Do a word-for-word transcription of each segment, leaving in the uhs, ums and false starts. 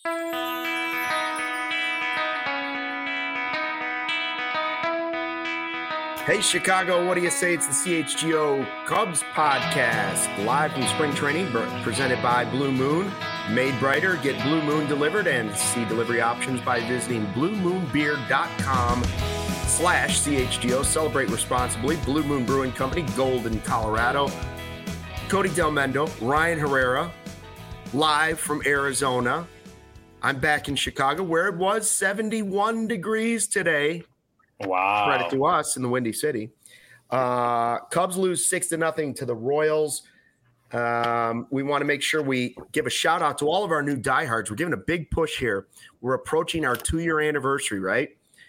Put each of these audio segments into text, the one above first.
Hey, Chicago, what do you say? It's the C H G O Cubs podcast, live from spring training, presented by Blue Moon. Made brighter, get Blue Moon delivered, and see delivery options by visiting bluemoonbeer.com slash CHGO. Celebrate responsibly. Blue Moon Brewing Company, Golden, Colorado. Cody Delmendo, Ryan Herrera, live from Arizona. I'm back in Chicago, where it was seventy-one degrees today. Wow. Credit to us in the Windy City. Uh, Cubs lose six to nothing to the Royals. Um, we want to make sure we give a shout out to all of our new diehards. We're giving a big push here. We're approaching our two-year anniversary, right?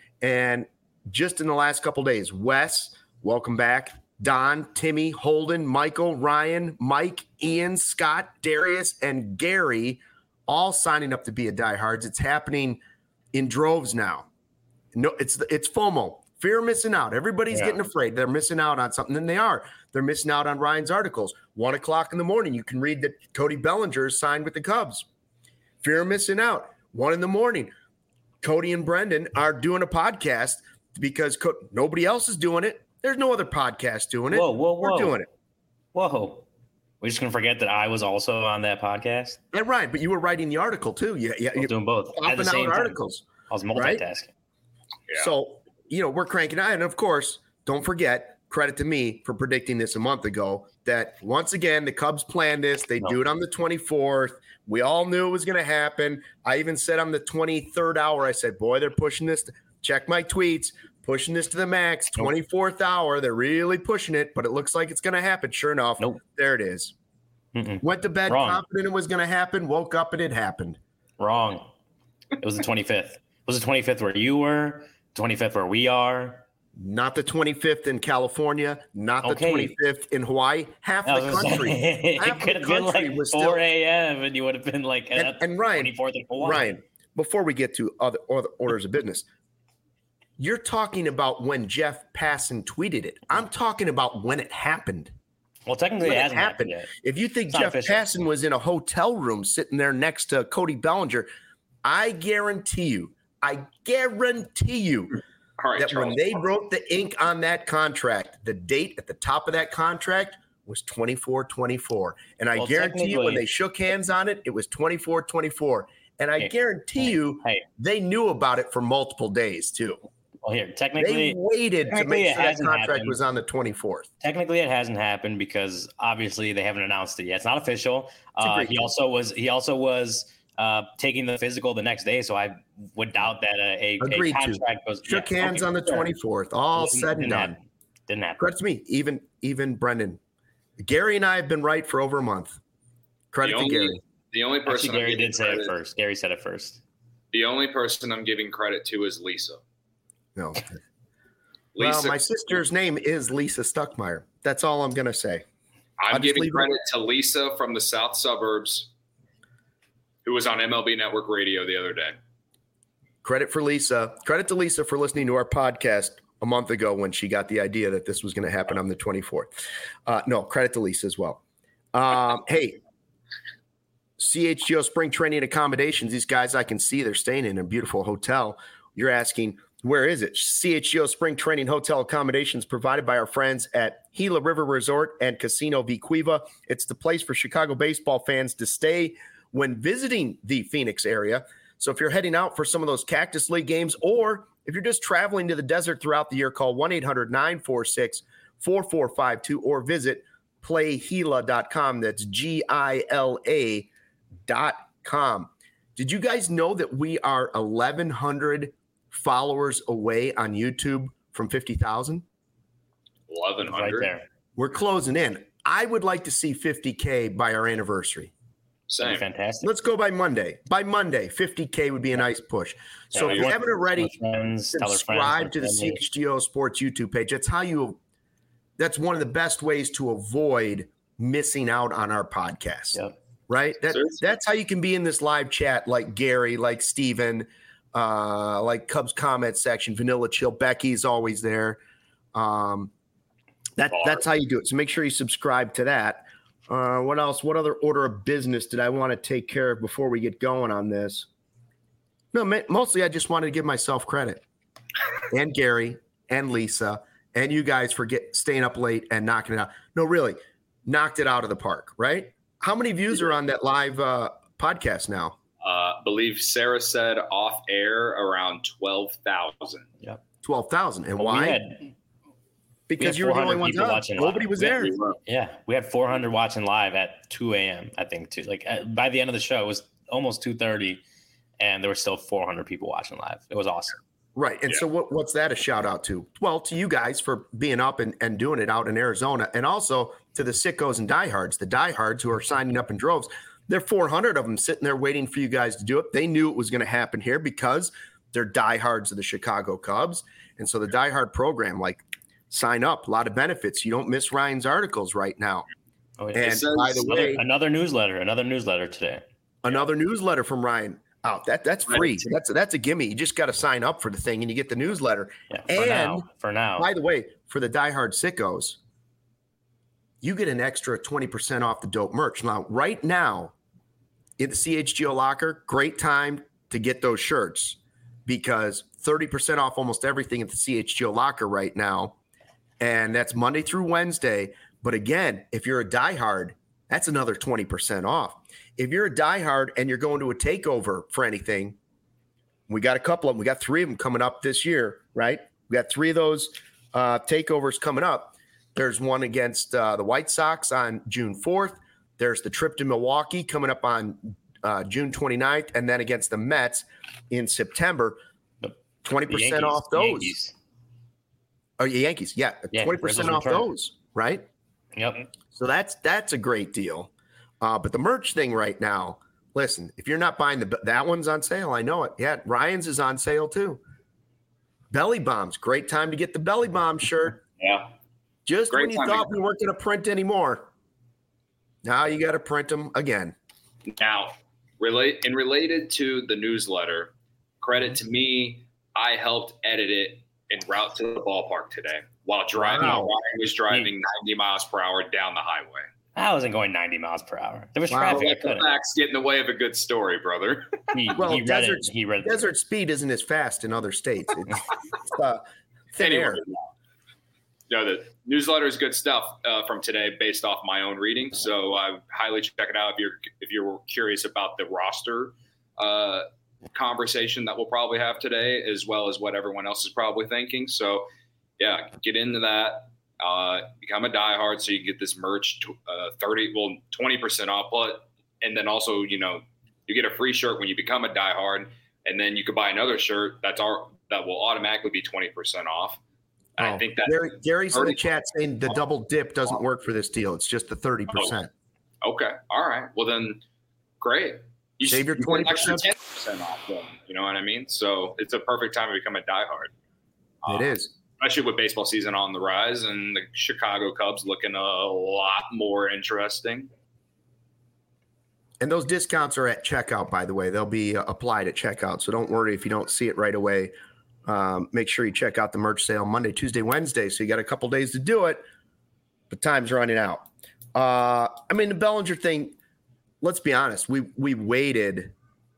And just in the last couple days, Wes, welcome back. Don, Timmy, Holden, Michael, Ryan, Mike, Ian, Scott, Darius, and Gary all signing up to be a diehards. It's happening in droves now. No, it's it's FOMO, fear of missing out. Everybody's yeah. getting afraid they're missing out on something, and they are. They're missing out on Ryan's articles. One o'clock in the morning, you can read that Cody Bellinger is signed with the Cubs. Fear of missing out. One in the morning, Cody and Brendan are doing a podcast because Co- nobody else is doing it. There's no other podcast doing it. Whoa, whoa, whoa. We're doing it. Whoa. We're just going to forget that I was also on that podcast? Yeah, right. But you were writing the article, too. Yeah, yeah. I was doing both. At the same articles. Time. I was multitasking. Right? Yeah. So, you know, we're cranking out. And, of course, don't forget, credit to me for predicting this a month ago, that once again, the Cubs planned this. They no. do it on the twenty-fourth. We all knew it was going to happen. I even said on the twenty-third hour, I said, boy, they're pushing this. To, check my tweets. Pushing this to the max. twenty-fourth nope. hour. They're really pushing it, but it looks like it's going to happen. Sure enough, nope. there it is. Mm-mm. Went to bed Wrong. confident it was going to happen. Woke up and it happened. Wrong. It was the twenty-fifth. Was the twenty-fifth where you were? twenty-fifth where we are? Not the twenty-fifth in California. Not the okay. twenty-fifth in Hawaii. Half the country. Say, half it could have been like four a.m. and you would have been like and, and Ryan, twenty-fourth in Hawaii. Ryan, before we get to other, other orders of business, you're talking about when Jeff Passan tweeted it. I'm talking about when it happened. Well, technically when it hasn't it happened. happened yet. If you think it's Jeff Passan was in a hotel room sitting there next to Cody Bellinger, I guarantee you, I guarantee you right, that Charles. when they wrote the ink on that contract, the date at the top of that contract was twenty-four twenty-four. And I well, guarantee you when they shook hands on it, it was twenty-four twenty-four. And I hey, guarantee hey, you hey. they knew about it for multiple days too. Well, here, technically, they waited to make sure that contract happened. was on the twenty-fourth. Technically, it hasn't happened because obviously they haven't announced it yet. It's not official. Uh, he thing. also was. He also was uh, taking the physical the next day, so I would doubt that a, a, a contract to. was shook yeah, hands okay, on the twenty-fourth. All didn't, said and didn't done. Happen. Didn't happen. Credit to me. Even even Brendan, Gary, and I have been right for over a month. Credit the to only, Gary. The only person Actually, Gary did say credit, it first. Gary said it first. The only person I'm giving credit to is Lisa. No. Lisa, well, my sister's name is Lisa Stuckmeyer. That's all I'm going to say. I'm giving credit it. to Lisa from the South Suburbs, who was on M L B Network Radio the other day. Credit for Lisa. Credit to Lisa for listening to our podcast a month ago when she got the idea that this was going to happen on the twenty-fourth. Uh, no, credit to Lisa as well. Um, hey, C H G O Spring Training Accommodations. These guys, I can see they're staying in a beautiful hotel. You're asking, where is it? C H G O Spring Training Hotel Accommodations provided by our friends at Gila River Resort and Casino Vicuiva. It's the place for Chicago baseball fans to stay when visiting the Phoenix area. So if you're heading out for some of those Cactus League games, or if you're just traveling to the desert throughout the year, call one eight hundred nine four six four four five two or visit play gila dot com. That's G I L A dot com. Did you guys know that we are eleven hundred followers away on YouTube from fifty thousand? eleven hundred. Right there. We're closing in. I would like to see fifty K by our anniversary. Same. Fantastic. Let's go by Monday. By Monday, fifty K would be a nice push. So yeah, if you haven't already, friends, subscribe to the family. C H G O Sports YouTube page. That's how you, that's one of the best ways to avoid missing out on our podcast. Yep. Right? That, that's how you can be in this live chat like Gary, like Steven, uh, like Cubs comment section, Vanilla Chill. Becky's always there. Um, that, that's how you do it. So make sure you subscribe to that. Uh, what else? What other order of business did I want to take care of before we get going on this? No, mostly I just wanted to give myself credit, and Gary and Lisa and you guys for get staying up late and knocking it out. No, really, knocked it out of the park, right? How many views are on that live uh, podcast now? Uh, believe Sarah said off air around twelve thousand. Yep. twelve thousand. And but why? We had, because you were the only one watching. Nobody was there. Yeah. We had four hundred watching live at two a.m. I think too. Like by the end of the show, it was almost two thirty and there were still four hundred people watching live. It was awesome. Right. And yeah. so what, what's that a shout out to? Well, to you guys for being up and, and doing it out in Arizona, and also to the sickos and diehards, the diehards who are signing up in droves. There are four hundred of them sitting there waiting for you guys to do it. They knew it was going to happen here because they're diehards of the Chicago Cubs. And so the diehard program, like, sign up, a lot of benefits. You don't miss Ryan's articles right now. Oh, yeah. And by the another, way, another newsletter, another newsletter today. Another yeah. newsletter from Ryan. Oh, that that's free. That's that's a gimme. You just got to sign up for the thing and you get the newsletter. Yeah, for and now, for now. By the way, for the diehard sickos, you get an extra twenty percent off the dope merch. Now, right now, in the C H G O locker, great time to get those shirts because thirty percent off almost everything at the C H G O locker right now. And that's Monday through Wednesday. But again, if you're a diehard, that's another twenty percent off. If you're a diehard and you're going to a takeover for anything, we got a couple of them. We got three of them coming up this year, right? We got three of those uh, takeovers coming up. There's one against uh, the White Sox on June fourth. There's the trip to Milwaukee coming up on uh, June twenty-ninth, and then against the Mets in September. twenty percent off those. Yankees. Oh, yeah, Yankees. Yeah, yeah twenty percent off return. Those, right? Yep. So that's that's a great deal. Uh, but the merch thing right now, listen, if you're not buying the that one's on sale. I know it. Yeah, Ryan's is on sale too. Belly Bombs, great time to get the Belly Bomb shirt. Yeah. Just great when you thought we weren't going to print anymore, now you got to print them again. Now, relate and related to the newsletter, credit to me, I helped edit it en route to the ballpark today while driving. Wow. Ryan was driving ninety miles per hour down the highway. I wasn't going ninety miles per hour. There was wow. traffic. Let the facts get in the way of a good story, brother. He, well, he read desert, it. He read desert speed isn't as fast in other states. It's, it's uh, thin anyway, air. No, the newsletter is good stuff uh, from today, based off my own reading. So I highly check it out if you're if you're curious about the roster uh, conversation that we'll probably have today, as well as what everyone else is probably thinking. So yeah, get into that. Uh, become a diehard so you can get this merch uh, thirty, well, twenty percent off. But and then also, you know, you get a free shirt when you become a diehard, and then you could buy another shirt that's our that will automatically be twenty percent off. Oh, I think that Gary, Gary's in the chat saying the double dip doesn't work for this deal. It's just the thirty percent. Oh, okay. All right. Well, then great. You save your twenty percent ten percent off then. You know what I mean? So it's a perfect time to become a diehard. It um, is. Especially with baseball season on the rise and the Chicago Cubs looking a lot more interesting. And those discounts are at checkout, by the way. They'll be uh, applied at checkout. So don't worry if you don't see it right away. Um, make sure you check out the merch sale Monday, Tuesday, Wednesday. So you got a couple days to do it, but time's running out. Uh, I mean, the Bellinger thing, let's be honest. We we waited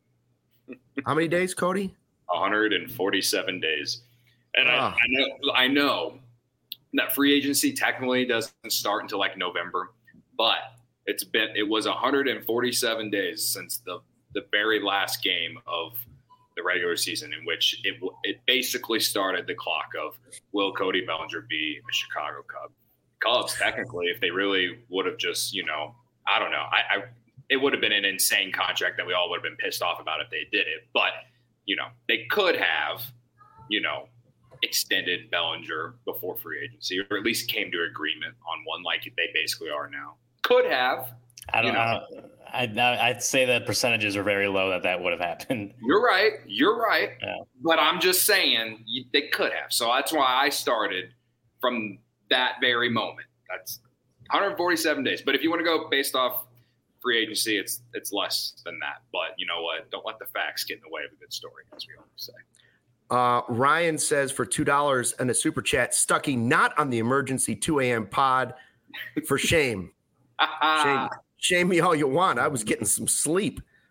how many days, Cody? one hundred forty-seven days. And I, I know I know that free agency technically doesn't start until like November, but it's been it was one hundred forty-seven days since the the very last game of the regular season, in which it it basically started the clock of will Cody Bellinger be a Chicago Cub? Cubs technically, if they really would have just you know I don't know I, I it would have been an insane contract that we all would have been pissed off about if they did it, but you know they could have you know. extended Bellinger before free agency, or at least came to agreement on one like they basically are now. Could have. I don't know. I'd, I'd say the percentages are very low that that would have happened. You're right. You're right. Yeah. But I'm just saying you, they could have. So that's why I started from that very moment. That's one hundred forty-seven days. But if you want to go based off free agency, it's it's less than that. But you know what? Don't let the facts get in the way of a good story, as we always say. Uh, Ryan says for two dollars and a super chat, Stuckey not on the emergency two a.m. pod. For shame. shame. Shame me all you want. I was getting some sleep.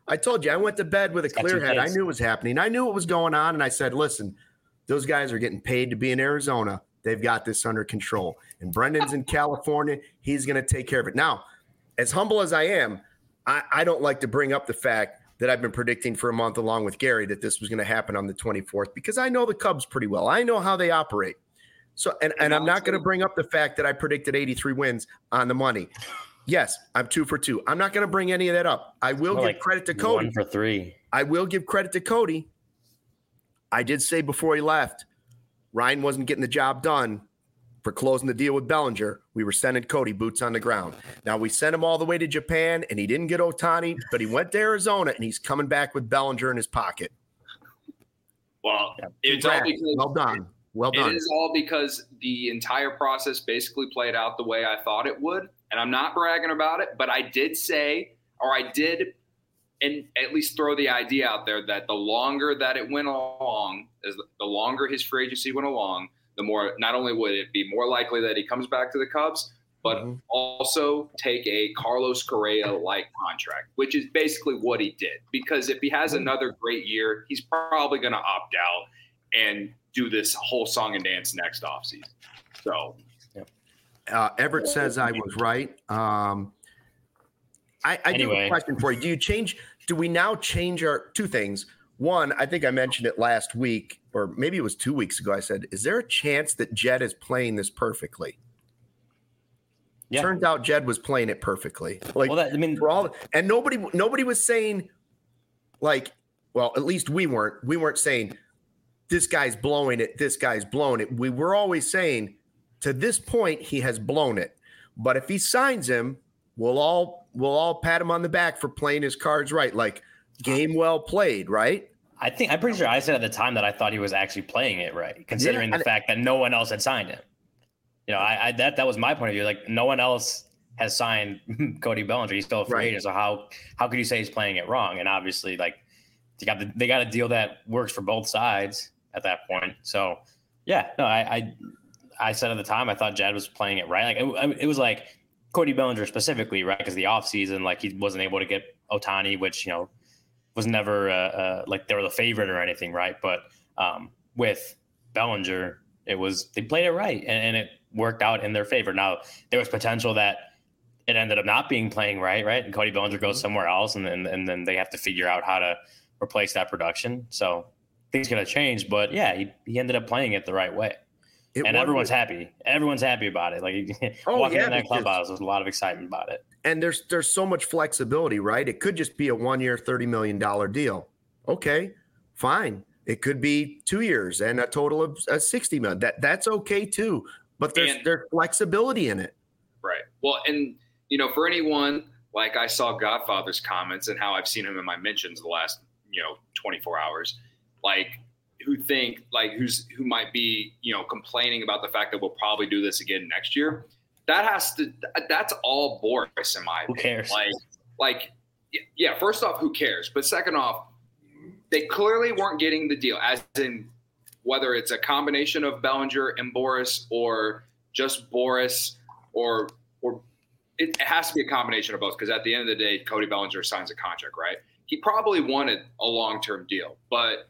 I told you, I went to bed with a clear head. I knew it was happening. I knew what was going on. And I said, listen, those guys are getting paid to be in Arizona. They've got this under control. And Brendan's in California. He's going to take care of it. Now, as humble as I am, I, I don't like to bring up the fact that I've been predicting for a month along with Gary that this was going to happen on the twenty-fourth because I know the Cubs pretty well. I know how they operate. So, and, and I'm not going to bring up the fact that I predicted eighty-three wins on the money. Yes, I'm two for two. I'm not going to bring any of that up. I will give like credit to Cody. One for three. I will give credit to Cody. I did say before he left, Ryan wasn't getting the job done for closing the deal with Bellinger. We were sending Cody boots on the ground. Now, we sent him all the way to Japan, and he didn't get Ohtani, but he went to Arizona, and he's coming back with Bellinger in his pocket. Well, it's all because well done. Well done. It is all because the entire process basically played out the way I thought it would. And I'm not bragging about it, but I did say, or I did, and at least throw the idea out there that the longer that it went along, as the longer his free agency went along, the more, not only would it be more likely that he comes back to the Cubs, but mm-hmm. also take a Carlos Correa-like contract, which is basically what he did. Because if he has another great year, he's probably going to opt out and do this whole song and dance next offseason. So. Uh, Everett says I was right. Um, I, I anyway. do have a question for you. Do you change? Do we now change our two things? One, I think I mentioned it last week, or maybe it was two weeks ago. I said, "Is there a chance that Jed is playing this perfectly?" Yeah. Turns out Jed was playing it perfectly. Like, well, that, I mean, for all, and nobody, nobody was saying, like, well, at least we weren't. We weren't saying this guy's blowing it. This guy's blowing it. We were always saying, to this point, he has blown it. But if he signs him, we'll all we'll all pat him on the back for playing his cards right. Like, game well played, right? I think I'm pretty sure I said at the time that I thought he was actually playing it right, considering yeah, the fact that no one else had signed him. You know, I, I that that was my point of view. Like, no one else has signed Cody Bellinger. He's still a free right. agent. So how how could you say he's playing it wrong? And obviously, like, they got the, they got a deal that works for both sides at that point. So yeah, no, I. I I said at the time, I thought Jed was playing it right. Like it, it was like Cody Bellinger specifically, right? Because the offseason, like he wasn't able to get Ohtani, which, you know, was never uh, uh, like they were the favorite or anything, right? But um, with Bellinger, it was they played it right, and, and it worked out in their favor. Now, there was potential that it ended up not being playing right, right? And Cody Bellinger goes somewhere else, and then and then they have to figure out how to replace that production. So things going to change, but yeah, he, he ended up playing it the right way. It and everyone's it. happy. Everyone's happy about it. Like oh, walking yeah, in that clubhouse, there's a lot of excitement about it. And there's there's so much flexibility, right? It could just be a one-year, thirty million dollars deal. Okay, fine. It could be two years and a total of uh, sixty million dollars. That that's okay too. But there's and, there's flexibility in it. Right. Well, and you know, for anyone like I saw Godfather's comments and how I've seen him in my mentions the last you know twenty-four hours, like. who think like who's who might be, you know, complaining about the fact that we'll probably do this again next year. That has to that's all Boris in my opinion. Who cares? Like like yeah, first off, who cares? But second off, they clearly weren't getting the deal, as in whether it's a combination of Bellinger and Boris or just Boris or or it has to be a combination of both, because at the end of the day, Cody Bellinger signs a contract, right? He probably wanted a long-term deal, but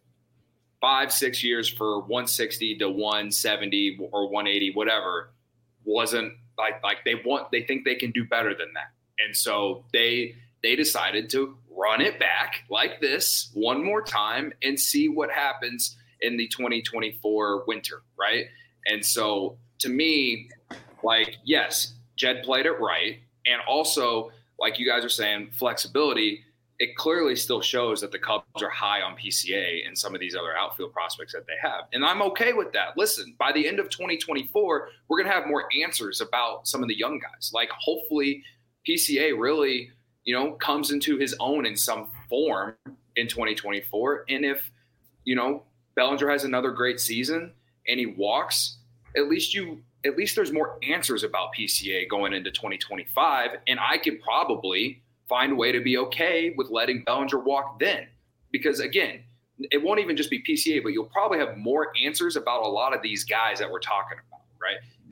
five, six years for one sixty to one seventy or one eighty, whatever, wasn't like like they want. They think they can do better than that, and so they they decided to run it back like this one more time and see what happens in the twenty twenty-four winter, right? And so to me, like yes, Jed played it right, and also like you guys are saying, flexibility. It clearly still shows that the Cubs are high on P C A and some of these other outfield prospects that they have. And I'm okay with that. Listen, by the end of twenty twenty-four, we're going to have more answers about some of the young guys. Like hopefully P C A really, you know, comes into his own in some form in twenty twenty-four. And if, you know, Bellinger has another great season and he walks, at least you, at least there's more answers about P C A going into twenty twenty-five. And I could probably find a way to be okay with letting Bellinger walk then. Because, again, it won't even just be P C A, but you'll probably have more answers about a lot of these guys that we're talking about, right?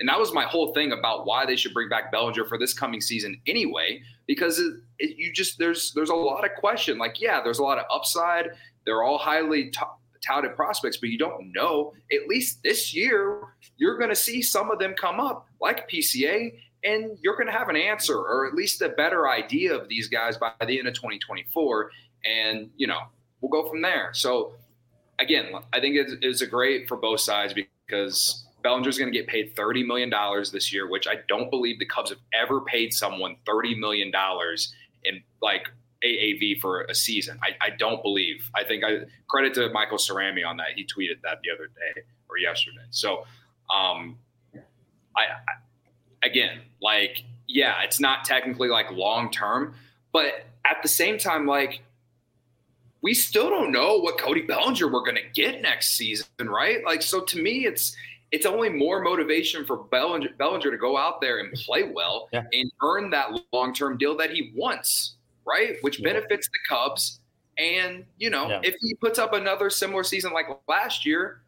And that was my whole thing about why they should bring back Bellinger for this coming season anyway, because it, it, you just there's there's a lot of question. Like, yeah, there's a lot of upside. They're all highly t- touted prospects, but you don't know. At least this year, you're going to see some of them come up like P C A, and you're going to have an answer or at least a better idea of these guys by the end of twenty twenty-four. And, you know, we'll go from there. So, again, I think it's, it's a great for both sides because Bellinger's going to get paid thirty million dollars this year, which I don't believe the Cubs have ever paid someone thirty million dollars in like A A V for a season. I, I don't believe. I think I credit to Michael Cerami on that. He tweeted that the other day or yesterday. So, um, I, I again, like, yeah, it's not technically like long term, but at the same time, like, we still don't know what Cody Bellinger we're going to get next season, right? Like, so to me, it's it's only more motivation for Bellinger, Bellinger to go out there and play well yeah. and earn that long-term deal that he wants, right? Which yeah. benefits the Cubs. And, you know, yeah. if he puts up another similar season like last year,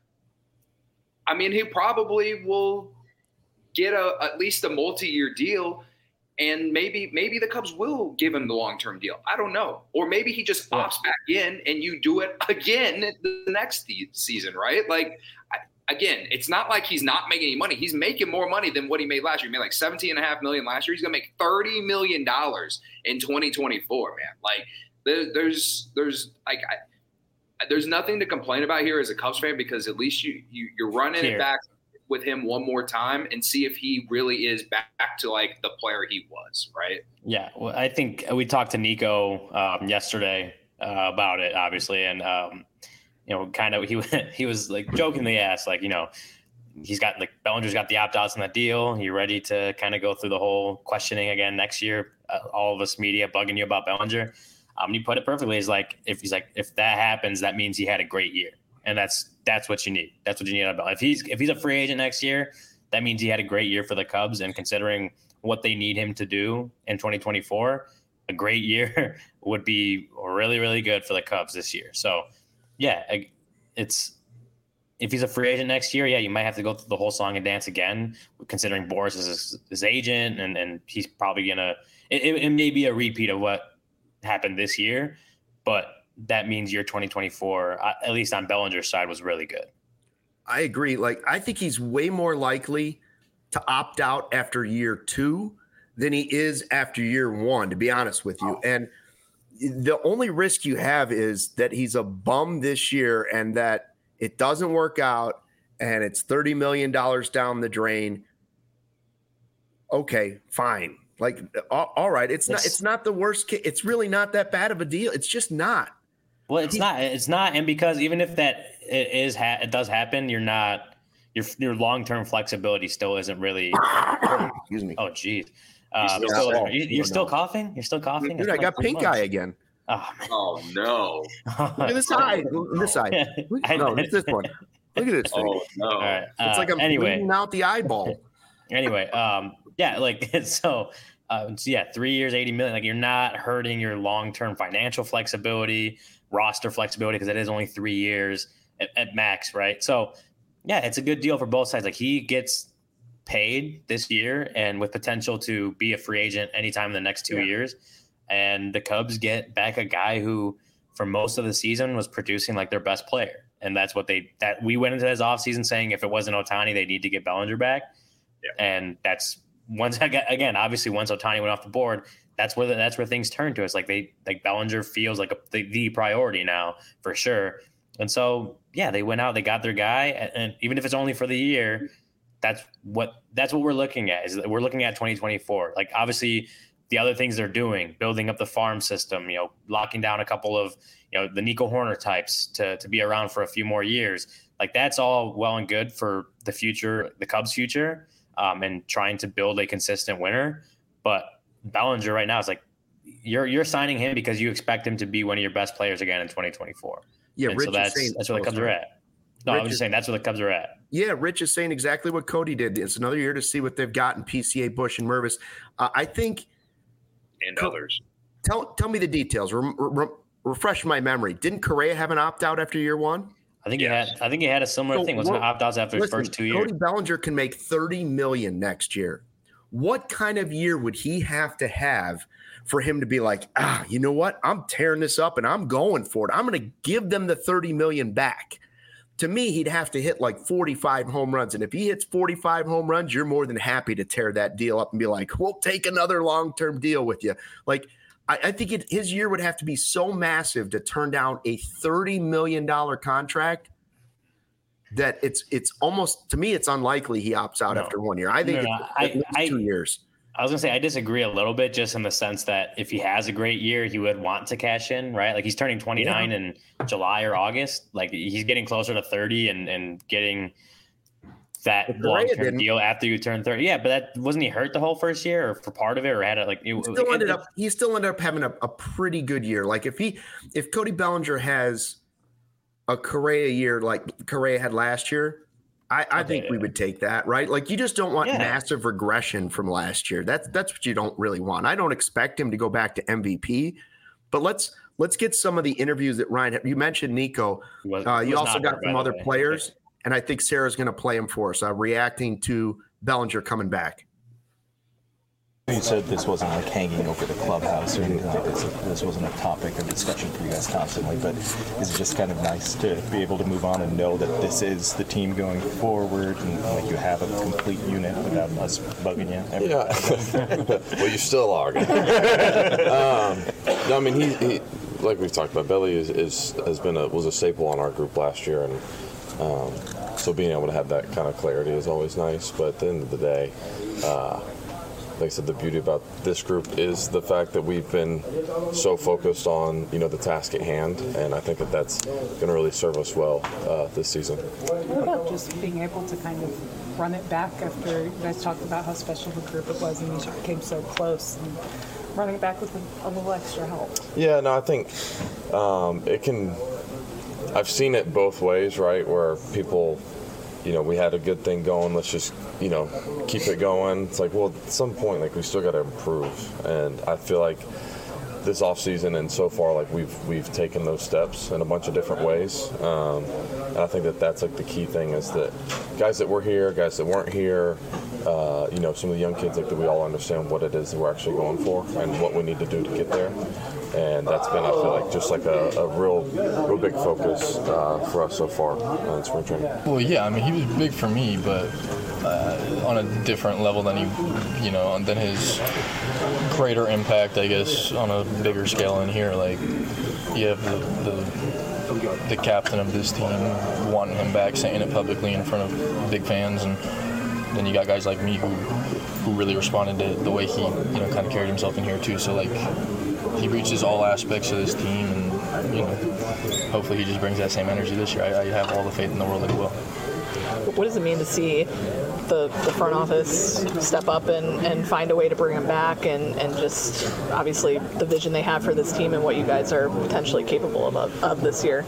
I mean, he probably will get a at least a multi-year deal. And maybe maybe the Cubs will give him the long-term deal. I don't know. Or maybe he just opts back in and you do it again the next season, right? Like, I, again, it's not like he's not making any money. He's making more money than what he made last year. He made like seventeen and a half million last year. He's going to make thirty million dollars in twenty twenty-four, man. Like, there, there's there's like I, there's nothing to complain about here as a Cubs fan because at least you, you you're running here. it back with him one more time and see if he really is back to like the player he was, right? Yeah. Well, I think we talked to Nico um, yesterday uh, about it, obviously. And, um, you know, kind of, he, he was like jokingly asked, like, you know, he's got like Bellinger's got the opt-outs in that deal. You ready to kind of go through the whole questioning again next year? Uh, all of us media bugging you about Bellinger. Um, and he put it perfectly. He's like, if he's like, if that happens, that means he had a great year. And that's that's what you need. That's what you need about. If he's if he's a free agent next year, that means he had a great year for the Cubs. And considering what they need him to do in twenty twenty-four, a great year would be really, really good for the Cubs this year. So, yeah, it's if he's a free agent next year, yeah, you might have to go through the whole song and dance again, considering Boras is his, his agent, and, and he's probably gonna. It, it may be a repeat of what happened this year, but that means your twenty twenty-four, at least on Bellinger's side, was really good. I agree. Like, I think he's way more likely to opt out after year two than he is after year one, to be honest with you. And the only risk you have is that he's a bum this year and that it doesn't work out and it's thirty million dollars down the drain. Okay, fine. Like, all right. It's, it's not, it's not the worst case. It's really not that bad of a deal. It's just not. Well, it's not. It's not, and because even if that it is, ha- it does happen, you're not. Your your long term flexibility still isn't really. Excuse me. Oh, geez. Uh, you're still, are you, you're still coughing. You're still coughing. Dude, I got pink eye again. Oh, oh no! Look at this eye. This side. No, it's this one. Look at this thing. Oh no! All right. Uh, it's like I'm anyway. bleeding out the eyeball. Anyway, um, yeah, like so. Uh, so yeah, three years, eighty million. Like, you're not hurting your long term financial flexibility, roster flexibility, because it is only three years at, at max, right? So, yeah, it's a good deal for both sides. Like, he gets paid this year and with potential to be a free agent anytime in the next two yeah. years. And the Cubs get back a guy who, for most of the season, was producing like their best player. And that's what they that we went into this offseason saying if it wasn't Ohtani, they need to get Bellinger back. Yeah. And that's once again, obviously, once Ohtani went off the board, that's where the, that's where things turned to us. Like they like Bellinger feels like a, the, the priority now for sure. And so, yeah, they went out, they got their guy, and, and even if it's only for the year, that's what that's what we're looking at. Is that we're looking at twenty twenty-four. Like, obviously, the other things they're doing, building up the farm system, you know, locking down a couple of, you know, the Nico Horner types to to be around for a few more years. Like, that's all well and good for the future, the Cubs' future. Um, and trying to build a consistent winner. But Bellinger right now is like, you're you're signing him because you expect him to be one of your best players again in twenty twenty-four. Yeah, and Rich so that's, saying, that's where the Cubs are at. No, Rich I'm just is, saying that's where the Cubs are at. Yeah, Rich is saying exactly what Cody did. It's another year to see what they've got in P C A, Bush, and Mervis. Uh, I think – And others. Tell, tell me the details. Re- re- refresh my memory. Didn't Correa have an opt-out after year one? I think yes. he had. I think he had a similar so thing. Wasn't it opt-outs after listen, his first two years? Cody Bellinger can make thirty million dollars next year. What kind of year would he have to have for him to be like, ah, you know what? I'm tearing this up and I'm going for it. I'm going to give them the thirty million dollars back. To me, he'd have to hit like forty-five home runs. And if he hits forty-five home runs, you're more than happy to tear that deal up and be like, we'll take another long-term deal with you. Like, I, I think it, his year would have to be so massive to turn down a thirty million dollars contract that it's it's almost, to me, it's unlikely he opts out no. after one year. I think no, no, it's I, at least I, two years. I was going to say, I disagree a little bit just in the sense that if he has a great year, he would want to cash in, right? Like he's turning twenty-nine yeah. in July or August. Like he's getting closer to thirty and, and getting that long-term deal after you turn thirty. Yeah, but that wasn't he hurt the whole first year or for part of it or had it like it, he still it, ended it, up he still ended up having a, a pretty good year. Like if he if Cody Bellinger has a Correa year like Correa had last year, I, I okay, think we would take that, right? Like you just don't want yeah. massive regression from last year. That's that's what you don't really want. I don't expect him to go back to M V P, but let's let's get some of the interviews that Ryan you mentioned. Nico, was, uh, you also got hurt, from other players, okay. and I think Sarah's going to play him for us, uh, reacting to Bellinger coming back. You said this wasn't like hanging over the clubhouse or anything like this. This wasn't a topic of discussion for you guys constantly, but is it just kind of nice to be able to move on and know that this is the team going forward and like you have a complete unit without us bugging you? Every yeah. Well, you still are. um, no, I mean, he, he, like we've talked about, Belly is, is has been a was a staple on our group last year, and um, so being able to have that kind of clarity is always nice. But at the end of the day, uh, like I said, the beauty about this group is the fact that we've been so focused on, you know, the task at hand, and I think that that's going to really serve us well uh, this season. What about just being able to kind of run it back after you guys talked about how special the group it was and you came so close, and running it back with a, a little extra help? Yeah, no, I think um, it can – I've seen it both ways, right, where people – you know, we had a good thing going, let's just, you know, keep it going. It's like, well, at some point, like, we still got to improve. And I feel like this offseason and so far, like, we've we've taken those steps in a bunch of different ways. Um, and I think that that's, like, the key thing is that guys that were here, guys that weren't here, uh, you know, some of the young kids, like, that we all understand what it is that we're actually going for and what we need to do to get there. And that's been, I feel like, just like a, a real, real big focus uh, for us so far in spring training. Well, yeah, I mean, he was big for me, but uh, on a different level than he, you know, than his greater impact, I guess, on a bigger scale in here. Like, you have the, the the captain of this team wanting him back, saying it publicly in front of big fans, and then you got guys like me who who really responded to the way he, you know, kind of carried himself in here too. So like, he reaches all aspects of this team, and, you know, hopefully he just brings that same energy this year. I, I have all the faith in the world that he will. What does it mean to see the, the front office step up and, and find a way to bring him back, and, and just obviously the vision they have for this team and what you guys are potentially capable of, of, of this year?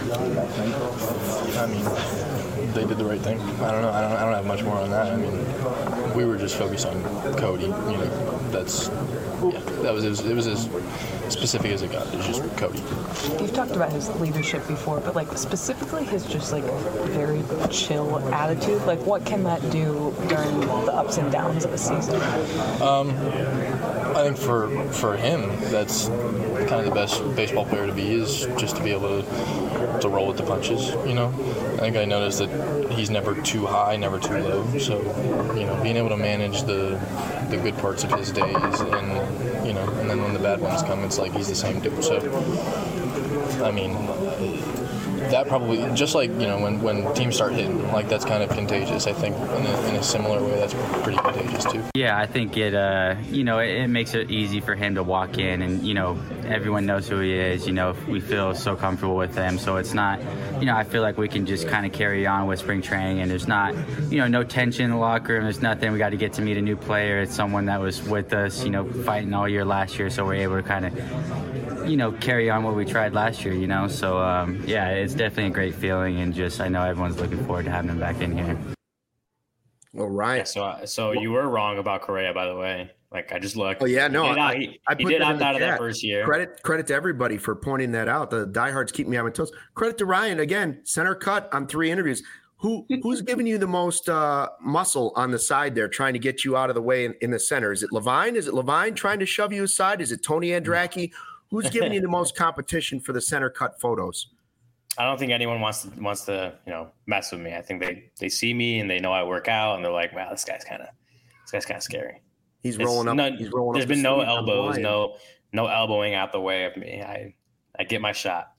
I mean, they did the right thing. I don't know. I don't, I don't have much more on that. I mean, we were just focused on Cody. You know, that's yeah. That was it was, it was as specific as it got. It was just Cody. You've talked about his leadership before, but like specifically his just like very chill attitude. Like, what can that do during the ups and downs of a season? Um, I think for for him, that's kind of the best baseball player to be, is just to be able to to roll with the punches. You know, I think I noticed that he's never too high, never too low. So, you know, being able to manage the the good parts of his days, and, you know, and then when the bad ones come, it's like he's the same dude. So, I mean, that probably, just like, you know, when, when teams start hitting, like, that's kind of contagious. I think in a, in a similar way, that's pretty contagious too. Yeah, I think it, uh, you know, it, it makes it easy for him to walk in, and, you know, everyone knows who he is. You know, we feel so comfortable with him, so it's not, you know, I feel like we can just kind of carry on with spring training, and there's not, you know, no tension in the locker room. There's nothing. We got to get to meet a new player. It's someone that was with us, you know, fighting all year last year, so we're able to kind of, you know, carry on what we tried last year, you know. So, um, yeah, it's definitely a great feeling, and just I know everyone's looking forward to having him back in here. Well, Ryan. Yeah, so, so you were wrong about Correa, by the way. Like, I just looked. Oh yeah, no, he did, I, he, I he put did that opt in the out of that chat. first year. Credit credit to everybody for pointing that out. The diehards keep me on my toes. Credit to Ryan again, center cut on three interviews. Who who's giving you the most uh, muscle on the side there, trying to get you out of the way in, in the center? Is it Levine? Is it Levine trying to shove you aside? Is it Tony Andracki? Who's giving you the most competition for the center cut photos? I don't think anyone wants to wants to you know mess with me. I think they they see me and they know I work out and they're like, wow, this guy's kind of this guy's kind of scary. He's It's rolling up. no- he's rolling there's up. been the no sleeve. I'm elbows, lying. no no elbowing out the way of me. I I get my shot.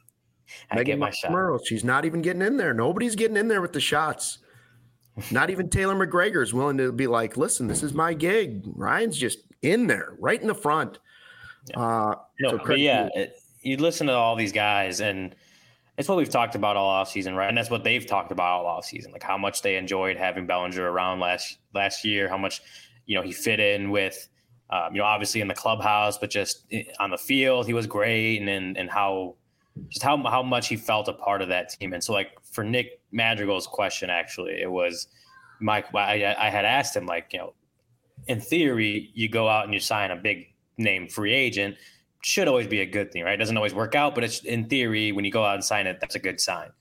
I Megan get my shot. Murrow, she's not even getting in there. Nobody's getting in there with the shots. Not even Taylor McGregor is willing to be like, listen, this is my gig. Ryan's just in there, right in the front. Yeah. Uh, No, so but credit yeah, to- it, you listen to all these guys, and it's what we've talked about all offseason, right? And that's what they've talked about all offseason, like how much they enjoyed having Bellinger around last last year, how much you know he fit in with, um, you know, obviously in the clubhouse, but just on the field, he was great, and and, and how just how how much he felt a part of that team. And so, like for Nick Madrigal's question, actually, it was Mike. I, I had asked him, like, you know, in theory, you go out and you sign a big name free agent. Should always be a good thing, right? It doesn't always work out, but it's in theory, when you go out and sign it, that's a good sign.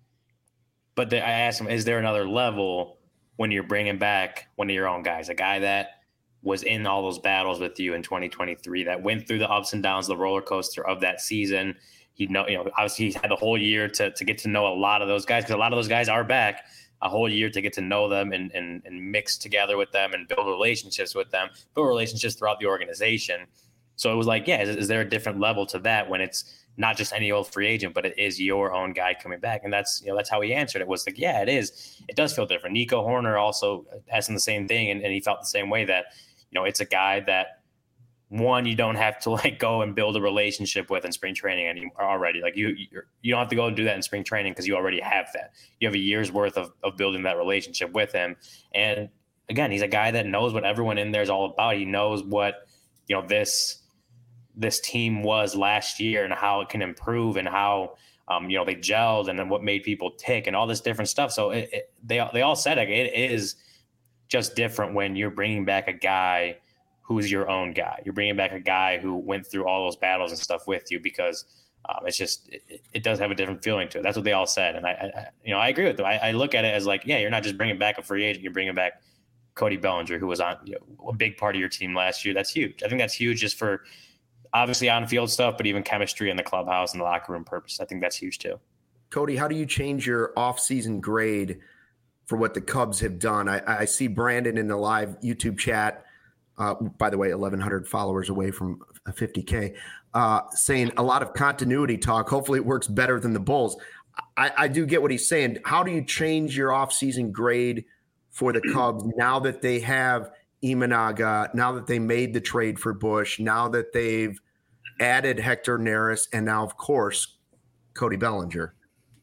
But the, I asked him, is there another level when you're bringing back one of your own guys, a guy that was in all those battles with you in twenty twenty-three, that went through the ups and downs, the roller coaster of that season? He know, you know, obviously he's had the whole year to to get to know a lot of those guys, because a lot of those guys are back. A whole year to get to know them and, and and mix together with them and build relationships with them, build relationships throughout the organization. So it was like, yeah, is, is there a different level to that when it's not just any old free agent, but it is your own guy coming back? And that's, you know, that's how he answered it, was like, yeah, it is. It does feel different. Nico Horner also asking the same thing, and, and he felt the same way, that, you know, it's a guy that, one, you don't have to like go and build a relationship with in spring training anymore already. Like you, you're, you don't have to go and do that in spring training, because you already have that. You have a year's worth of, of building that relationship with him. And again, he's a guy that knows what everyone in there is all about. He knows what, you know, this, this team was last year and how it can improve, and how, um, you know, they gelled and then what made people tick and all this different stuff. So it, it, they, they all said it, it is just different when you're bringing back a guy who's your own guy. You're bringing back a guy who went through all those battles and stuff with you, because um, it's just, it, it does have a different feeling to it. That's what they all said. And I, I you know, I agree with them. I, I look at it as like, yeah, you're not just bringing back a free agent, you're bringing back Cody Bellinger, who was on, you know, a big part of your team last year. That's huge. I think that's huge just for obviously on-field stuff, but even chemistry in the clubhouse and the locker room purpose. I think that's huge too. Cody, how do you change your off-season grade for what the Cubs have done? I, I see Brandon in the live YouTube chat, uh, by the way, eleven hundred followers away from fifty K, uh, saying a lot of continuity talk. Hopefully it works better than the Bulls. I, I do get what he's saying. How do you change your off-season grade for the Cubs now that they have Imanaga, now that they made the trade for Bush, now that they've added Hector Neris, and now, of course, Cody Bellinger?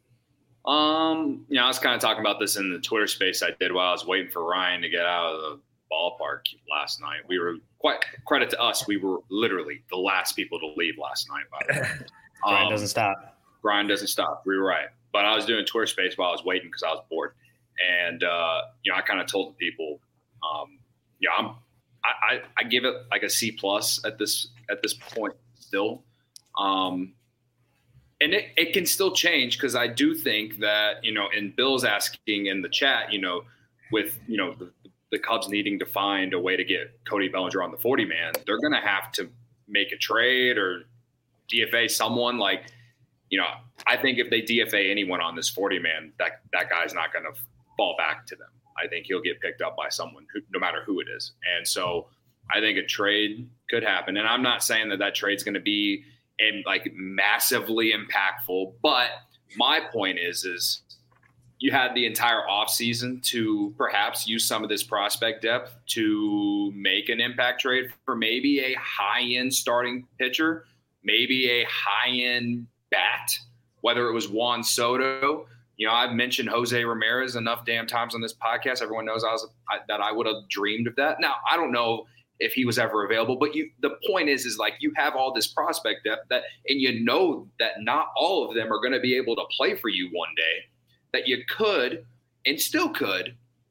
Um, you know, I was kind of talking about this in the Twitter space I did while I was waiting for Ryan to get out of the ballpark last night. We were quite credit to us. We were literally the last people to leave last night, by the way. Brian um, doesn't stop. Brian doesn't stop. We were right. But I was doing Twitter space while I was waiting because I was bored. And, uh, you know, I kind of told the people, um, yeah, I'm, I, I, I give it like a C plus at this, at this point still. Um, and it, it can still change, because I do think that, you know, and Bill's asking in the chat, you know, with, you know, the, the Cubs needing to find a way to get Cody Bellinger on the forty man, they're going to have to make a trade or D F A someone. Like, you know, I think if they D F A anyone on this forty man, that, that guy's not going to fall back to them. I think he'll get picked up by someone who, no matter who it is. And so I think a trade could happen. And I'm not saying that that trade's going to be in like massively impactful, but my point is, is you had the entire offseason to perhaps use some of this prospect depth to make an impact trade for maybe a high-end starting pitcher, maybe a high-end bat, whether it was Juan Soto. You know, I've mentioned Jose Ramirez enough damn times on this podcast. Everyone knows I was I, that I would have dreamed of that. Now, I don't know if he was ever available, but you, the point is, is like you have all this prospect depth that, and you know that not all of them are going to be able to play for you one day, that you could and still could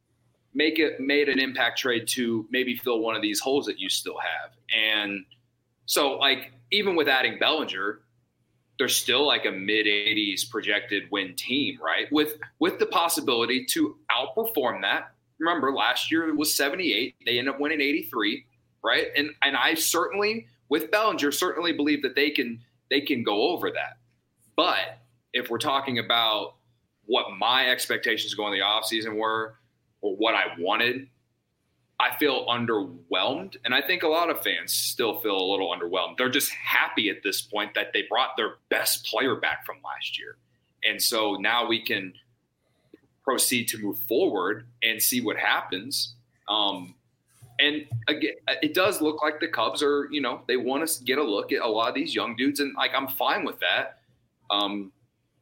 make it made an impact trade to maybe fill one of these holes that you still have. And so, like, even with adding Bellinger, there's still like a mid eighties projected win team, right? With with the possibility to outperform that. Remember, last year it was seventy-eight. They ended up winning eighty-three, right? And and I certainly, with Bellinger, certainly believe that they can they can go over that. But if we're talking about what my expectations going the offseason were, or what I wanted, I feel underwhelmed. And I think a lot of fans still feel a little underwhelmed. They're just happy at this point that they brought their best player back from last year. And so now we can proceed to move forward and see what happens. Um, and again, it does look like the Cubs are, you know, they want to get a look at a lot of these young dudes. And like, I'm fine with that. Um,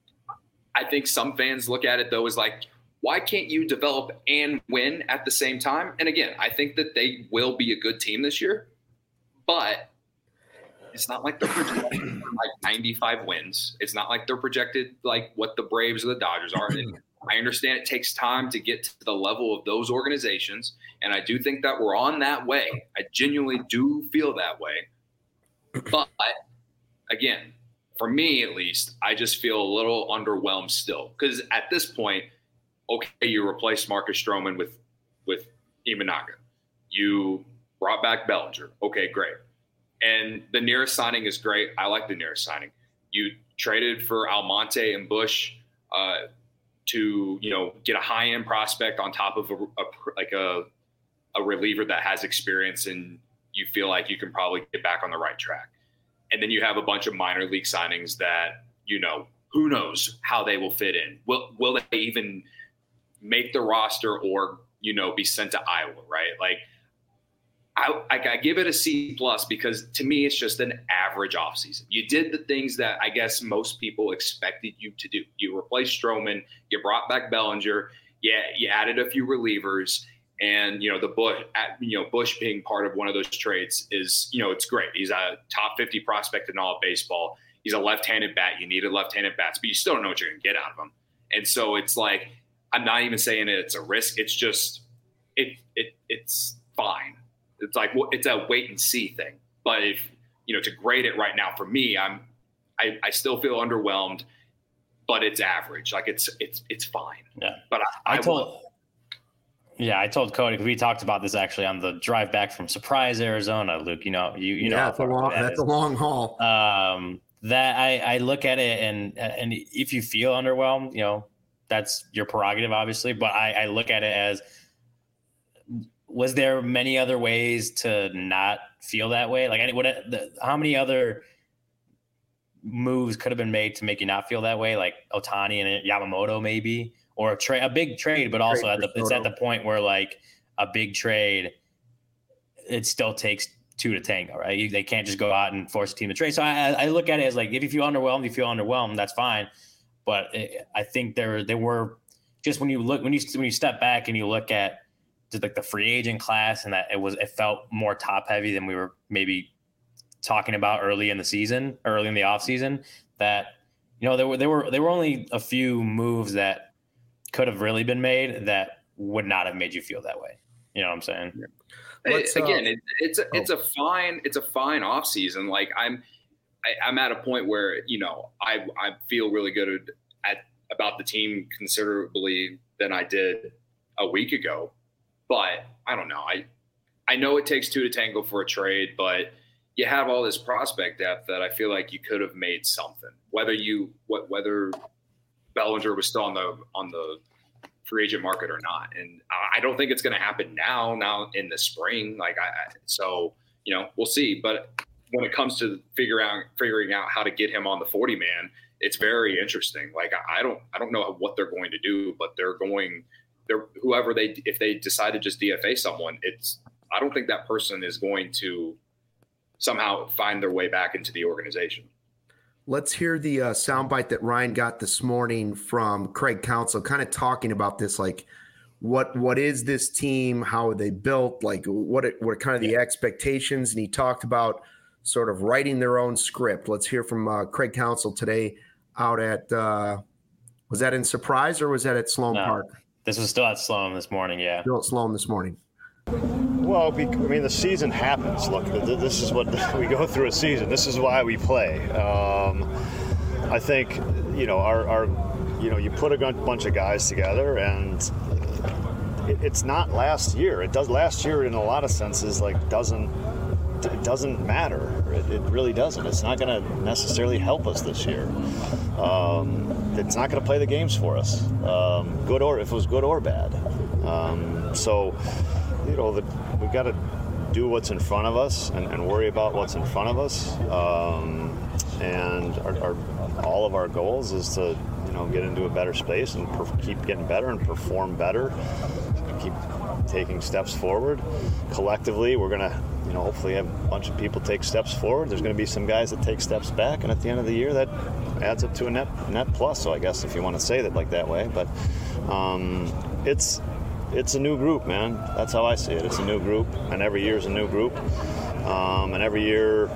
I think some fans look at it though as like, why can't you develop and win at the same time? And again, I think that they will be a good team this year, but it's not like they're projected like ninety-five wins. It's not like they're projected like what the Braves or the Dodgers are. And I understand it takes time to get to the level of those organizations. And I do think that we're on that way. I genuinely do feel that way. But again, for me at least, I just feel a little underwhelmed still. Because at this point, okay, you replaced Marcus Stroman with with Imanaga. You brought back Bellinger. Okay, great. And the nearest signing is great. I like the nearest signing. You traded for Almonte and Bush uh, to, you know, get a high-end prospect on top of a, a like a a reliever that has experience, and you feel like you can probably get back on the right track. And then you have a bunch of minor league signings that, you know, who knows how they will fit in. Will will they even make the roster or, you know, be sent to Iowa, right? Like, I, I, I give it a C plus because to me, it's just an average offseason. You did the things that I guess most people expected you to do. You replaced Stroman, you brought back Bellinger, yeah, you added a few relievers, and, you know, the Bush, you know, Bush being part of one of those trades is, you know, it's great. He's a top fifty prospect in all of baseball. He's a left-handed bat. You needed left-handed bats, but you still don't know what you're going to get out of him. And so it's like, I'm not even saying it's a risk. It's just, it it it's fine. It's like, well, it's a wait and see thing. But if, you know, to grade it right now for me, I'm, I, I still feel underwhelmed, but it's average. Like it's, it's, it's fine. Yeah. But I, I, I told, yeah, I told Cody, we talked about this actually on the drive back from Surprise, Arizona, Luke, you know, you, you know, yeah, that's a long, that that's a long haul. Um, that I, I look at it and, and if you feel underwhelmed, you know, that's your prerogative, obviously. But I, I look at it as, was there many other ways to not feel that way? Like, what? The, how many other moves could have been made to make you not feel that way? Like Ohtani and Yamamoto, maybe, or a trade, a big trade, but also at the it's at the point where like a big trade, it still takes two to tango, right? You, they can't just go out and force a team to trade. So I, I look at it as like, if you feel underwhelmed, you feel underwhelmed. That's fine. But it, I think there there were just when you look when you when you step back and you look at just like the free agent class, and that it was it felt more top heavy than we were maybe talking about early in the season, early in the off season. That, you know, there were there were there were only a few moves that could have really been made that would not have made you feel that way. You know what I'm saying? It's, again, it, it's a it's a fine it's a fine off season. Like I'm. I, I'm at a point where, you know, I I feel really good at about the team considerably than I did a week ago. But I don't know. I I know it takes two to tango for a trade, but you have all this prospect depth that I feel like you could have made something. Whether you what whether Bellinger was still on the on the free agent market or not, and I don't think it's going to happen now. Now in the spring, like I so you know we'll see, but. When it comes to figure out figuring out how to get him on the forty man, it's very interesting. Like I don't I don't know what they're going to do, but they're going they're whoever they if they decide to just D F A someone, it's I don't think that person is going to somehow find their way back into the organization. Let's hear the uh, soundbite that Ryan got this morning from Craig Counsell, kind of talking about this, like what what is this team? How are they built? Like what what are kind of the expectations? And he talked about sort of writing their own script. Let's hear from uh, Craig Counsell today out at, uh, was that in Surprise or was that at Sloan no, Park? This was still at Sloan this morning, yeah. Still at Sloan this morning. Well, I mean, the season happens. Look, this is what we go through a season. This is why we play. Um, I think, you know, our, our, you know, you put a bunch of guys together, and it, it's not last year. It does last year in a lot of senses, like doesn't it doesn't matter. It, it really doesn't. It's not going to necessarily help us this year. Um, it's not going to play the games for us, um, good or if it was good or bad. Um, so. You know, the, we've got to do what's in front of us and, and worry about what's in front of us. Um, and our, our, all of our goals is to, you know, get into a better space and per, keep getting better and perform better, keep taking steps forward. Collectively, we're going to, you know, hopefully have a bunch of people take steps forward. There's going to be some guys that take steps back, and at the end of the year, that adds up to a net net plus. So I guess if you want to say that like that way, but um, it's. It's a new group, man. That's how I see it. It's a new group, and every year is a new group. Um, and every year,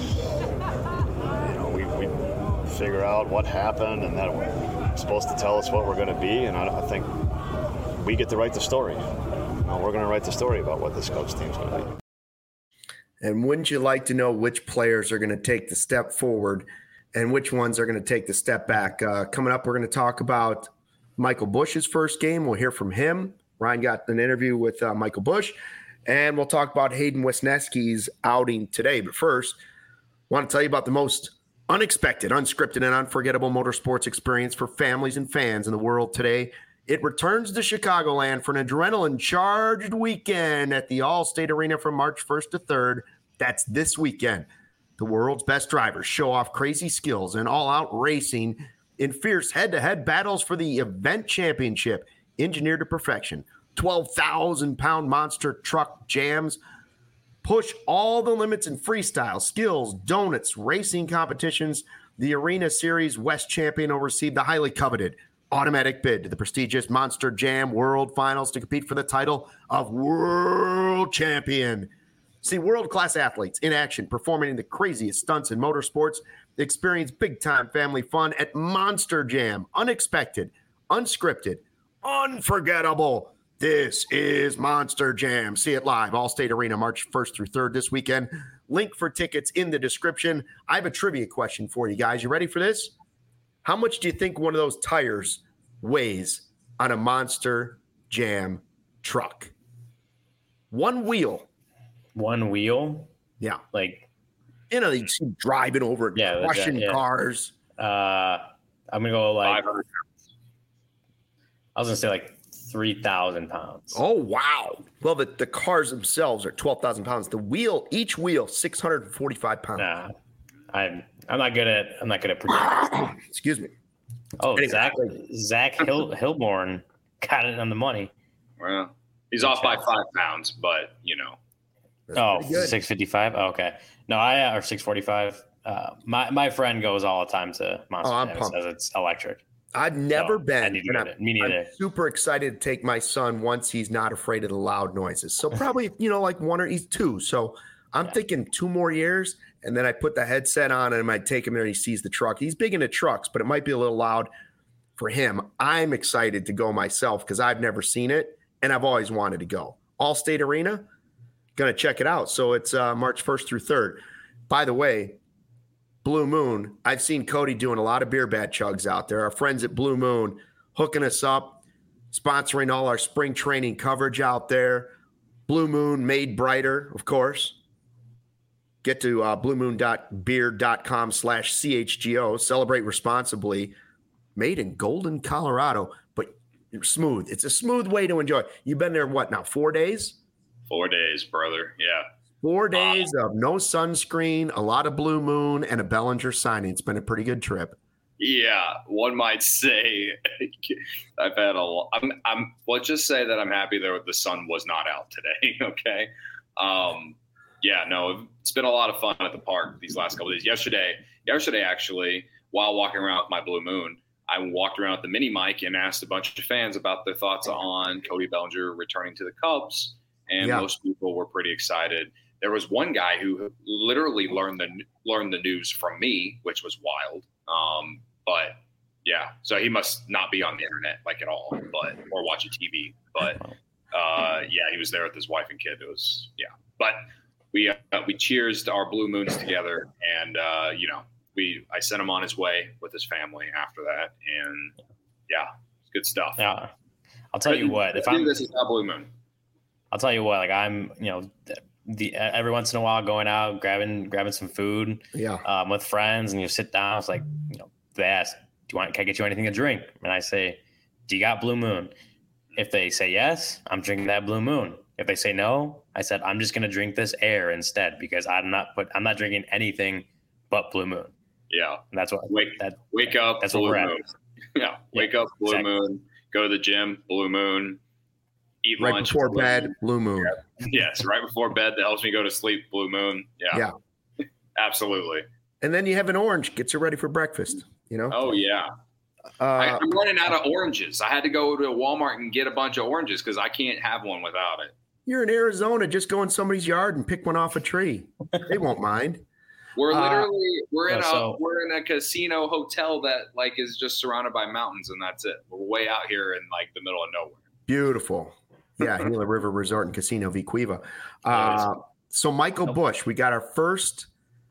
you know, we, we figure out what happened, and that it's supposed to tell us what we're going to be. And I, I think we get to write the story. You know, we're going to write the story about what this coach team's going to be. And wouldn't you like to know which players are going to take the step forward and which ones are going to take the step back? Uh, coming up, we're going to talk about Michael Busch's first game. We'll hear from him. Ryan got an interview with uh, Michael Busch, and we'll talk about Hayden Wesneski's outing today. But first, I want to tell you about the most unexpected, unscripted, and unforgettable motorsports experience for families and fans in the world today. It returns to Chicagoland for an adrenaline-charged weekend at the Allstate Arena from March first to third. That's this weekend. The world's best drivers show off crazy skills and all-out racing in fierce head-to-head battles for the event championship. Engineered to perfection. twelve thousand pound monster truck jams push all the limits in freestyle, skills, donuts, racing competitions. The Arena Series West champion will receive the highly coveted automatic bid to the prestigious Monster Jam World Finals to compete for the title of World Champion. See world-class athletes in action performing in the craziest stunts in motorsports. Experience big-time family fun at Monster Jam. Unexpected, unscripted, unforgettable. This is Monster Jam. See it live, Allstate Arena, March first through third this weekend. Link for tickets in the description. I have a trivia question for you guys. You ready for this? How much do you think one of those tires weighs on a Monster Jam truck? One wheel. One wheel? Yeah. Like, you know, you see driving over it, yeah, crushing yeah. cars. Uh, I'm going to go like, five hundred I was going to say like three thousand pounds. Oh, wow. Well, the, the cars themselves are twelve thousand pounds. The wheel, each wheel, six hundred forty-five pounds. Nah, I'm, I'm not good at, I'm not good at predicting. Excuse me. Oh, Anyway. Zach, Zach Hil, Hilborn got it on the money. Well, he's off by five pounds, but you know. That's Oh, pretty good. six fifty-five. Oh, okay. No, I, or six forty-five. Uh, my, my friend goes all the time to Monster Oh, I'm Jam. pumped. Says it's electric. I've never So, I been. need to and get I'm, it. Me I'm neither. super excited to take my son once he's not afraid of the loud noises. So probably, you know, like one or he's two. So I'm Yeah. thinking two more years, and then I put the headset on and I might take him there and he sees the truck. He's big into trucks, but it might be a little loud for him. I'm excited to go myself because I've never seen it and I've always wanted to go. Allstate Arena, going to check it out. So it's uh, March first through third. By the way, Blue Moon, I've seen Cody doing a lot of beer bat chugs out there. Our friends at Blue Moon hooking us up, sponsoring all our spring training coverage out there. Blue Moon made brighter, of course. Get to uh, bluemoon.beer.com slash CHGO. Celebrate responsibly. Made in Golden, Colorado, but smooth. It's a smooth way to enjoy. You've been there, what now, four days? Four days, brother. Yeah. Four days of no sunscreen, a lot of Blue Moon, and a Bellinger signing. It's been a pretty good trip. Yeah, one might say I've had a lot. I'm, I'm, let's just say that I'm happy that the sun was not out today. Okay. Um, yeah, no, it's been a lot of fun at the park these last couple of days. Yesterday, yesterday, actually, while walking around with my Blue Moon, I walked around with the mini mic and asked a bunch of fans about their thoughts on Cody Bellinger returning to the Cubs. And Yeah. most people were pretty excited. There was one guy who literally learned the learned the news from me, which was wild. Um, but Yeah, so he must not be on the internet like at all, but or watching T V. But uh, yeah, he was there with his wife and kid. It was yeah, but we uh, we cheersed our blue moons together, and uh, you know we I sent him on his way with his family after that, and yeah, it's good stuff. Yeah, I'll tell you what. If I'm this is a blue moon, I'll tell you what. Like I'm, you know. The every once in a while going out, grabbing grabbing some food, yeah, um, with friends, and you sit down. It's like, you know, they ask, "Do you want? Can I get you anything to drink?" And I say, "Do you got Blue Moon?" If they say yes, I'm drinking that Blue Moon. If they say no, I said I'm just gonna drink this air instead because I'm not put I'm not drinking anything but Blue Moon. Yeah, and that's what wake that wake up. That's Blue what we're Moon. at. Yeah, wake yeah, up, Blue exactly. Moon. Go to the gym, Blue Moon. Eat right lunch before bed, Blue Moon. Yeah. Yes, right before bed. That helps me go to sleep. Blue Moon. Yeah. Yeah. Absolutely. And then you have an orange. Gets you ready for breakfast. You know. Oh yeah. Uh, I, I'm running out of oranges. I had to go to Walmart and get a bunch of oranges because I can't have one without it. You're in Arizona. Just go in somebody's yard and pick one off a tree. They won't mind. We're literally uh, we're in yeah, a so, we're in a casino hotel that like is just surrounded by mountains and that's it. We're way out here in like the middle of nowhere. Beautiful. Yeah, Gila River Resort and Casino Vicuiva. Uh, so Michael Busch, we got our first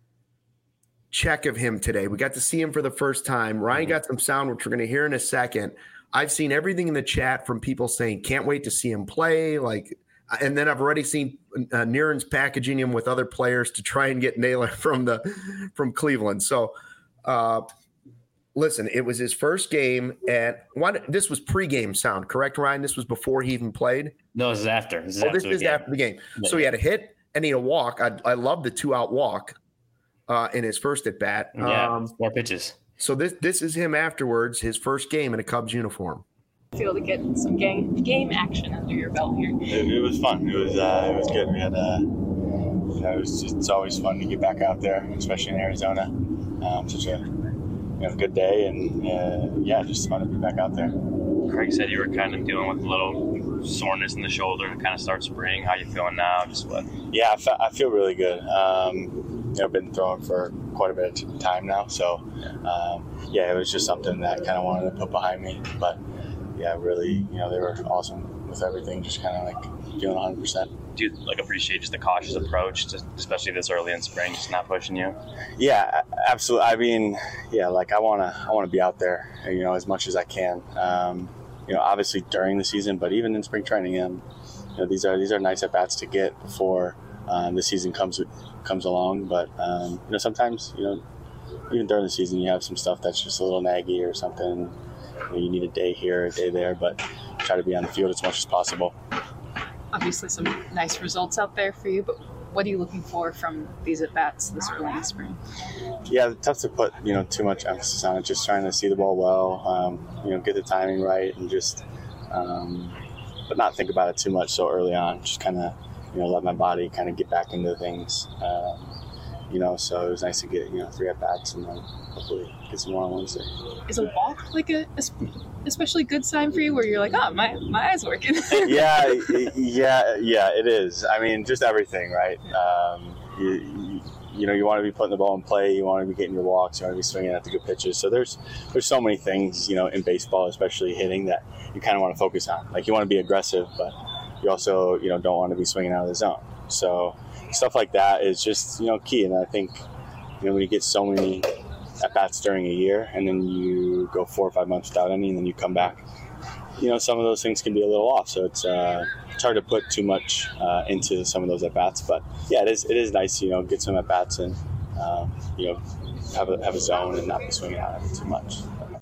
check of him today. We got to see him for the first time. Ryan got some sound, which we're going to hear in a second. I've seen everything in the chat from people saying, can't wait to see him play. Like, and then I've already seen uh, Niren's packaging him with other players to try and get Naylor from the from Cleveland. So, uh, listen, it was his first game, and one, this was pregame sound, correct, Ryan? This was before he even played? No, this is after. This is, oh, after, this the is game. after the game. Yeah. So he had a hit and he had a walk. I, I love the two-out walk uh, in his first at-bat. Yeah, um, four pitches. So this this is him afterwards, his first game in a Cubs uniform. Feel to get some game game action under your belt here. It, it was fun. It was uh, it was good. We had uh, you know, it was just, it's always fun to get back out there, especially in Arizona. Um, such a you know, good day, and uh, yeah, just fun to be back out there. Craig said you were kind of dealing with a little soreness in the shoulder to kind of start spring. How you feeling now? Just what? Yeah, I, fe- I feel really good. Um, you know, I've been throwing for quite a bit of time now, so um, yeah, it was just something that I kind of wanted to put behind me. But yeah, really, you know, they were awesome with everything. Just kind of like feeling one hundred percent. Do you like appreciate just the cautious approach, to, especially this early in spring, just not pushing you? Yeah, absolutely. I mean, yeah, like I wanna, I wanna be out there, you know, as much as I can. Um, you know, obviously during the season, but even in spring training, um, you know, these are these are nice at bats to get before um, the season comes comes along. But um, you know, sometimes, you know, even during the season, you have some stuff that's just a little naggy or something. You know, you need a day here, a day there, but try to be on the field as much as possible. Obviously some nice results out there for you, but what are you looking for from these at-bats this early in the spring? Yeah, tough to put, you know, too much emphasis on it, just trying to see the ball well, um, you know, get the timing right, and just, um, but not think about it too much so early on, just kind of, you know, let my body kind of get back into things, um, you know, so it was nice to get, you know, three at-bats and then hopefully get some more on Wednesday. Is a walk like a, a especially good sign for you where you're like, oh, my, my eye's working? yeah, yeah, yeah, it is. I mean, just everything, right? Um, you, you, you know, you want to be putting the ball in play, you want to be getting your walks, you want to be swinging at the good pitches. So there's there's so many things, you know, in baseball, especially hitting, that you kind of want to focus on. Like, you want to be aggressive, but you also, you know, don't want to be swinging out of the zone. So stuff like that is just, you know, key. And I think, you know, when you get so many at-bats during a year and then you go four or five months without any and then you come back, you know, some of those things can be a little off. So it's uh, it's hard to put too much uh, into some of those at-bats. But yeah, it is it is nice to, you know, get some at-bats and, uh, you know, have a, have a zone and not be swinging out of it too much.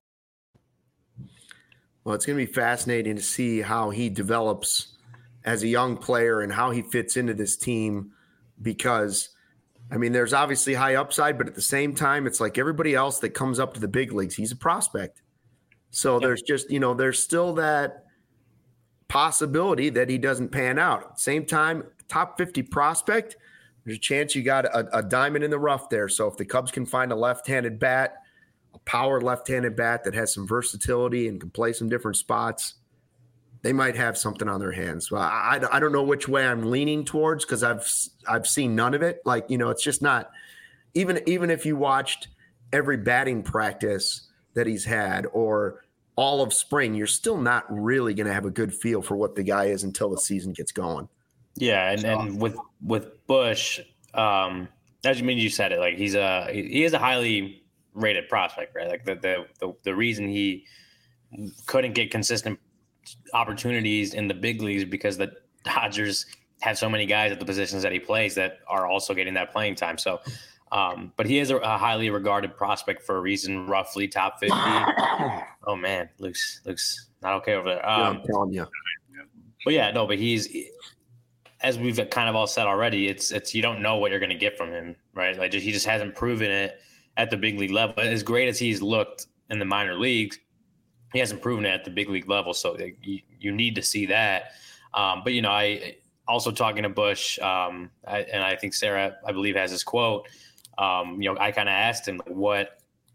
Well, it's going to be fascinating to see how he develops as a young player and how he fits into this team, because I mean, there's obviously high upside, but at the same time, it's like everybody else that comes up to the big leagues, he's a prospect. So yep. there's just, you know, there's still that possibility that he doesn't pan out. At the same time, top fifty prospect, there's a chance you got a, a diamond in the rough there. So if the Cubs can find a left-handed bat, a power left-handed bat that has some versatility and can play some different spots, they might have something on their hands. Well, I, I don't know which way I'm leaning towards, because I've I've seen none of it. Like, you know, it's just not even even if you watched every batting practice that he's had or all of spring, you're still not really going to have a good feel for what the guy is until the season gets going. Yeah, and, and with with Bush, um, as you mean you said it, like he's a he is a highly rated prospect, right? Like the the the, the reason he couldn't get consistent opportunities in the big leagues because the Dodgers have so many guys at the positions that he plays that are also getting that playing time. So, um, but he is a, a highly regarded prospect for a reason, roughly top fifty. Oh man, Luke's Luke's not okay over there. Um, yeah, I'm telling you. But yeah, no, but he's, as we've kind of all said already, it's it's you don't know what you're going to get from him, right? Like just, he just hasn't proven it at the big league level. As great as he's looked in the minor leagues, he hasn't proven it at the big league level. So like, you, you need to see that. Um, but you know, I also talking to Bush, um, I, and I think Sarah, I believe, has this quote. Um, you know, I kind of asked him like, what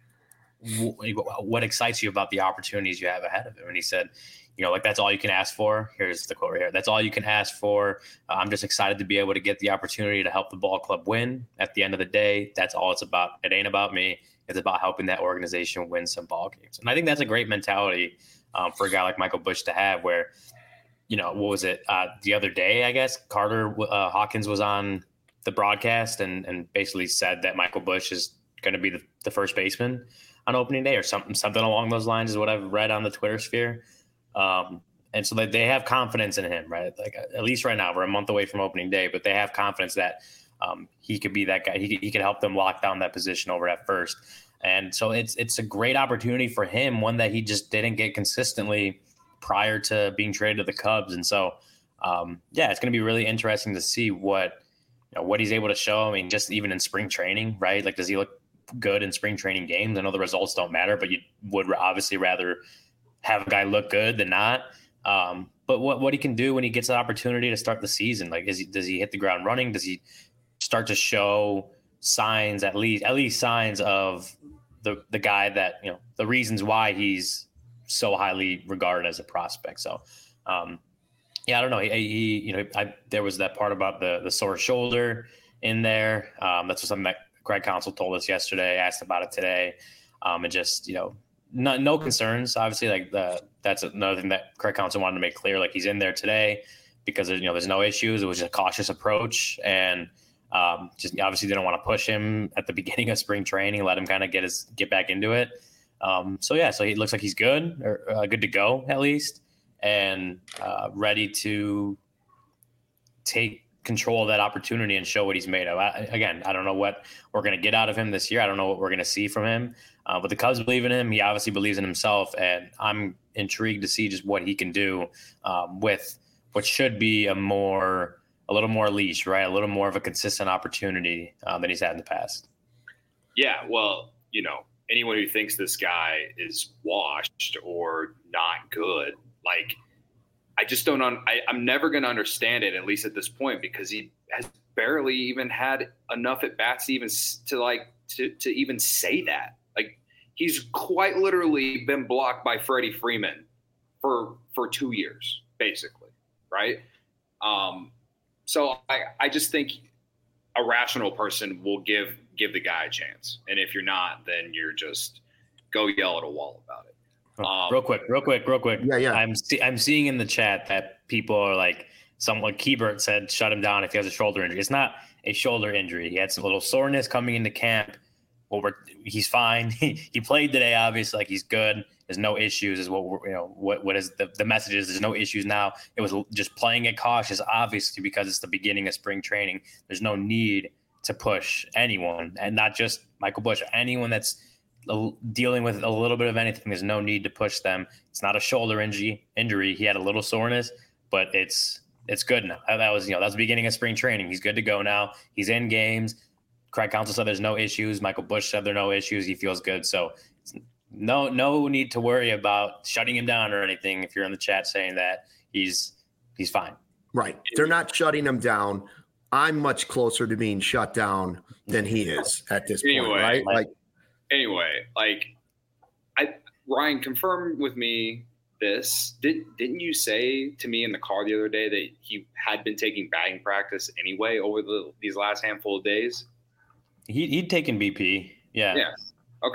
what excites you about the opportunities you have ahead of him, and he said, you know, like that's all you can ask for. Here's the quote right here. That's all you can ask for. Uh, I'm just excited to be able to get the opportunity to help the ball club win. At the end of the day, that's all it's about. It ain't about me. It's about helping that organization win some ball games. And I think that's a great mentality um, for a guy like Michael Bush to have where, you know, what was it? Uh, the other day, I guess, Carter uh, Hawkins was on the broadcast and, and basically said that Michael Bush is going to be the, the first baseman on opening day or something, something along those lines is what I've read on the Twitter sphere. Um, and so that they have confidence in him, right? Like at least right now, we're a month away from opening day, but they have confidence that um, he could be that guy. He, he could help them lock down that position over at first. And so it's it's a great opportunity for him, one that he just didn't get consistently prior to being traded to the Cubs. And so, um, yeah, it's going to be really interesting to see what, you know, what he's able to show. I mean, just even in spring training, right? Like, does he look good in spring training games? I know the results don't matter, but you would obviously rather have a guy look good than not. Um, but what, what he can do when he gets the opportunity to start the season, like, is he, does he hit the ground running? Does he start to show signs, at least, at least signs of the, the guy that, you know, the reasons why he's so highly regarded as a prospect. So, um, yeah, I don't know. He, he you know, I, there was that part about the, the sore shoulder in there. Um, that's something that Craig Counsell told us yesterday, asked about it today. Um, and just, you know, no, no concerns, obviously. Like the, that's another thing that Craig Counsell wanted to make clear. Like he's in there today because you know there's no issues. It was just a cautious approach, and um, just obviously didn't want to push him at the beginning of spring training. Let him kind of get his get back into it. Um, so yeah, so he looks like he's good or uh, good to go at least, and uh, ready to take control of that opportunity and show what he's made of. I, again, I don't know what we're going to get out of him this year. I don't know what we're going to see from him. Uh, but the Cubs believe in him. He obviously believes in himself, and I'm intrigued to see just what he can do um, with what should be a more, a little more leash, right? A little more of a consistent opportunity uh, than he's had in the past. Yeah, well, you know, anyone who thinks this guy is washed or not good, like, I just don't. Un- I, I'm never going to understand it, at least at this point, because he has barely even had enough at bats to even to like to to even say that. Like he's quite literally been blocked by Freddie Freeman for for two years, basically, right? Um, so I I just think a rational person will give give the guy a chance, and if you're not, then you're just go yell at a wall about it. Um, real quick, real quick, real quick. Yeah, yeah. I'm see, I'm seeing in the chat that people are like, someone Keybert said, shut him down if he has a shoulder injury. It's not a shoulder injury. He had some little soreness coming into camp. Well, we're, he's fine. He, he played today, obviously, like he's good. There's no issues. Is what we're, you know. What what is the the message is? There's no issues now. It was just playing it cautious, obviously, because it's the beginning of spring training. There's no need to push anyone, and not just Michael Bush. Anyone that's dealing with a little bit of anything, there's no need to push them. It's not a shoulder injury. Injury. He had a little soreness, but it's it's good now. That was you know that was the beginning of spring training. He's good to go now. He's in games. Craig Counsell said there's no issues. Michael Bush said there are no issues. He feels good. So no no need to worry about shutting him down or anything. If you're in the chat saying that he's he's fine. Right. They're not shutting him down. I'm much closer to being shut down than he is at this anyway, point, right? Like. Anyway, like, I Ryan, confirm with me this. Did, didn't you say to me in the car the other day that he had been taking batting practice anyway over the these last handful of days? He, he'd taken B P. Yeah. Yeah. Okay.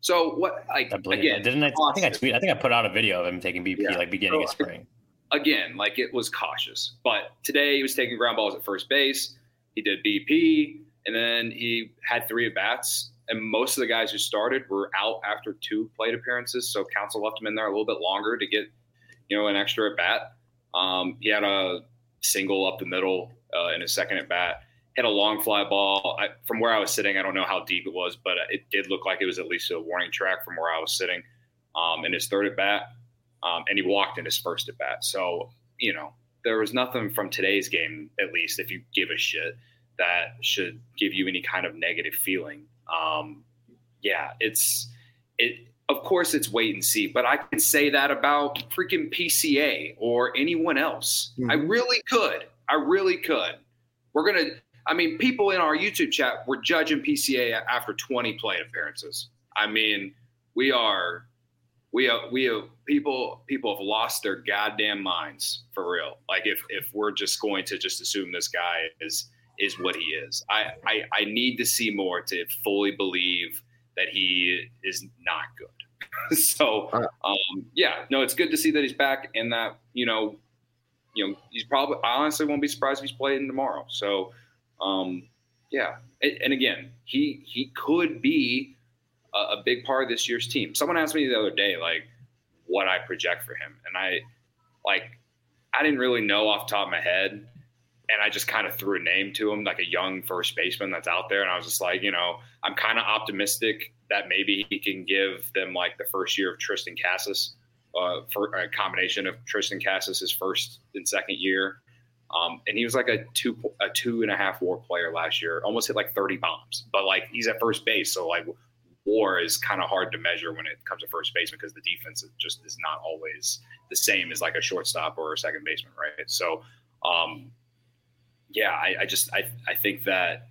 So what? Like I believe again, it. Didn't I? I think I tweet. I think I put out a video of him taking B P yeah. like beginning so, of spring. Again, like it was cautious, but today he was taking ground balls at first base. He did B P, and then he had three at bats. And most of the guys who started were out after two plate appearances, so Counsell left him in there a little bit longer to get, you know, an extra at bat. Um, he had a single up the middle uh, in his second at bat. Hit a long fly ball. I, from where I was sitting, I don't know how deep it was, but it did look like it was at least a warning track from where I was sitting. Um, in his third at bat, um, and he walked in his first at bat. So you know, there was nothing from today's game, at least if you give a shit, that should give you any kind of negative feeling. Um, yeah, it's it. Of course, it's wait and see, but I could say that about freaking P C A or anyone else. Mm-hmm. I really could. I really could. We're gonna. I mean, people in our YouTube chat were judging P C A after twenty plate appearances. I mean, we are, we are, we are people. People have lost their goddamn minds for real. Like if if we're just going to just assume this guy is. is what he is. I, I, I need to see more to fully believe that he is not good. so, um, yeah, no, it's good to see that he's back and that, you know, you know, he's probably, I honestly won't be surprised if he's playing tomorrow. So, um, yeah. And, and again, he, he could be a, a big part of this year's team. Someone asked me the other day, like what I project for him. And I like, I didn't really know off the top of my head. And I just kind of threw a name to him, like a young first baseman that's out there. And I was just like, you know, I'm kind of optimistic that maybe he can give them like the first year of Tristan Casas, uh, for a combination of Tristan Casas, his first and second year. Um, and he was like a two, a two and a half WAR player last year, almost hit like thirty bombs, but like he's at first base. So like WAR is kind of hard to measure when it comes to first baseman because the defense is just is not always the same as like a shortstop or a second baseman. Right. So, um, Yeah, I, I just I, I think that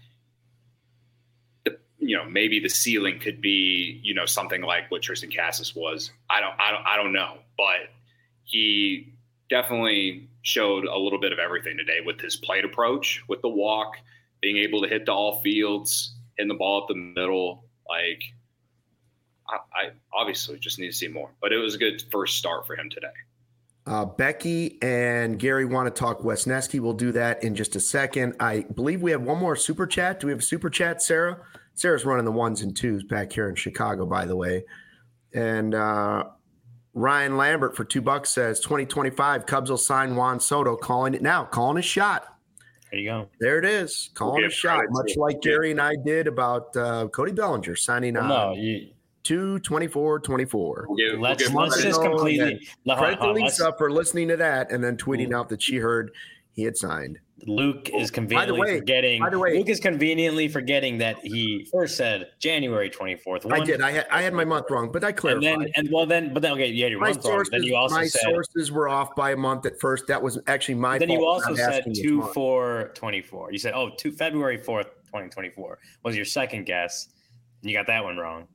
the you know maybe the ceiling could be you know something like what Tristan Casas was. I don't I don't I don't know, but he definitely showed a little bit of everything today with his plate approach, with the walk, being able to hit to all fields, hitting the ball up the middle. Like I, I obviously just need to see more, but it was a good first start for him today. Uh, Becky and Gary want to talk Wesneski. We'll do that in just a second. I believe we have one more super chat. Do we have a super chat, Sarah? Sarah's running the ones and twos back here in Chicago, by the way. And uh, Ryan Lambert for two bucks says twenty twenty-five Cubs will sign Juan Soto, calling it now, calling a shot. There you go. There it is, calling a shot, much like Gary and I did about uh, Cody Bellinger signing on. No, you. two twenty-four twenty-four We'll let's let's just completely credit to Lisa for listening to that and then tweeting mm. out that she heard he had signed. Luke is conveniently by way, forgetting. By the way, Luke is conveniently forgetting that he first said January twenty-fourth. I did. I had I had my month wrong, but I clarified. And then, and well, then, but then, okay, you had your my month sources, wrong. Then you also my said sources were off by a month at first. That was actually my. Then fault you also said two four twenty-four. You said, oh, two February fourth, twenty twenty-four was your second guess. And you got that one wrong.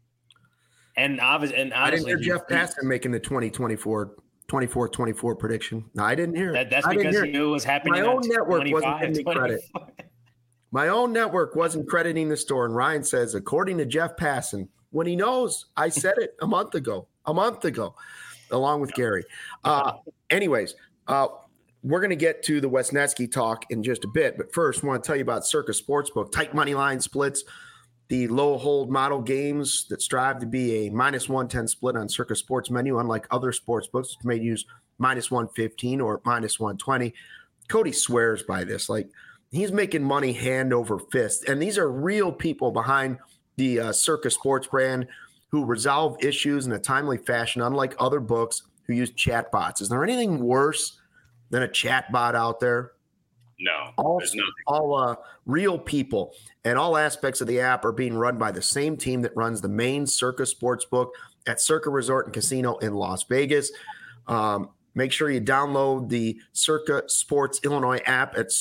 And obviously, and honestly, I didn't hear Jeff Passan making the twenty twenty-four twenty-four twenty-four prediction. No, I didn't hear it. That, that's because he knew it was happening. My own network wasn't giving me credit. My own network wasn't crediting the store. And Ryan says, according to Jeff Passan, when he knows, I said it a month ago, a month ago, along with Gary. Uh, anyways, uh, we're going to get to the Wesneski talk in just a bit. But first, I want to tell you about Circa Sportsbook. Tight money line splits. The low hold model games that strive to be a minus one ten split on Circa Sports menu, unlike other sports books, which may use minus one fifteen or minus one twenty. Cody swears by this. Like, he's making money hand over fist. And these are real people behind the uh, Circa Sports brand who resolve issues in a timely fashion, unlike other books who use chatbots. Is there anything worse than a chatbot out there? No, all, there's nothing. All uh, real people, and all aspects of the app are being run by the same team that runs the main Circa Sportsbook at Circa Resort and Casino in Las Vegas. Um, make sure you download the Circa Sports Illinois app at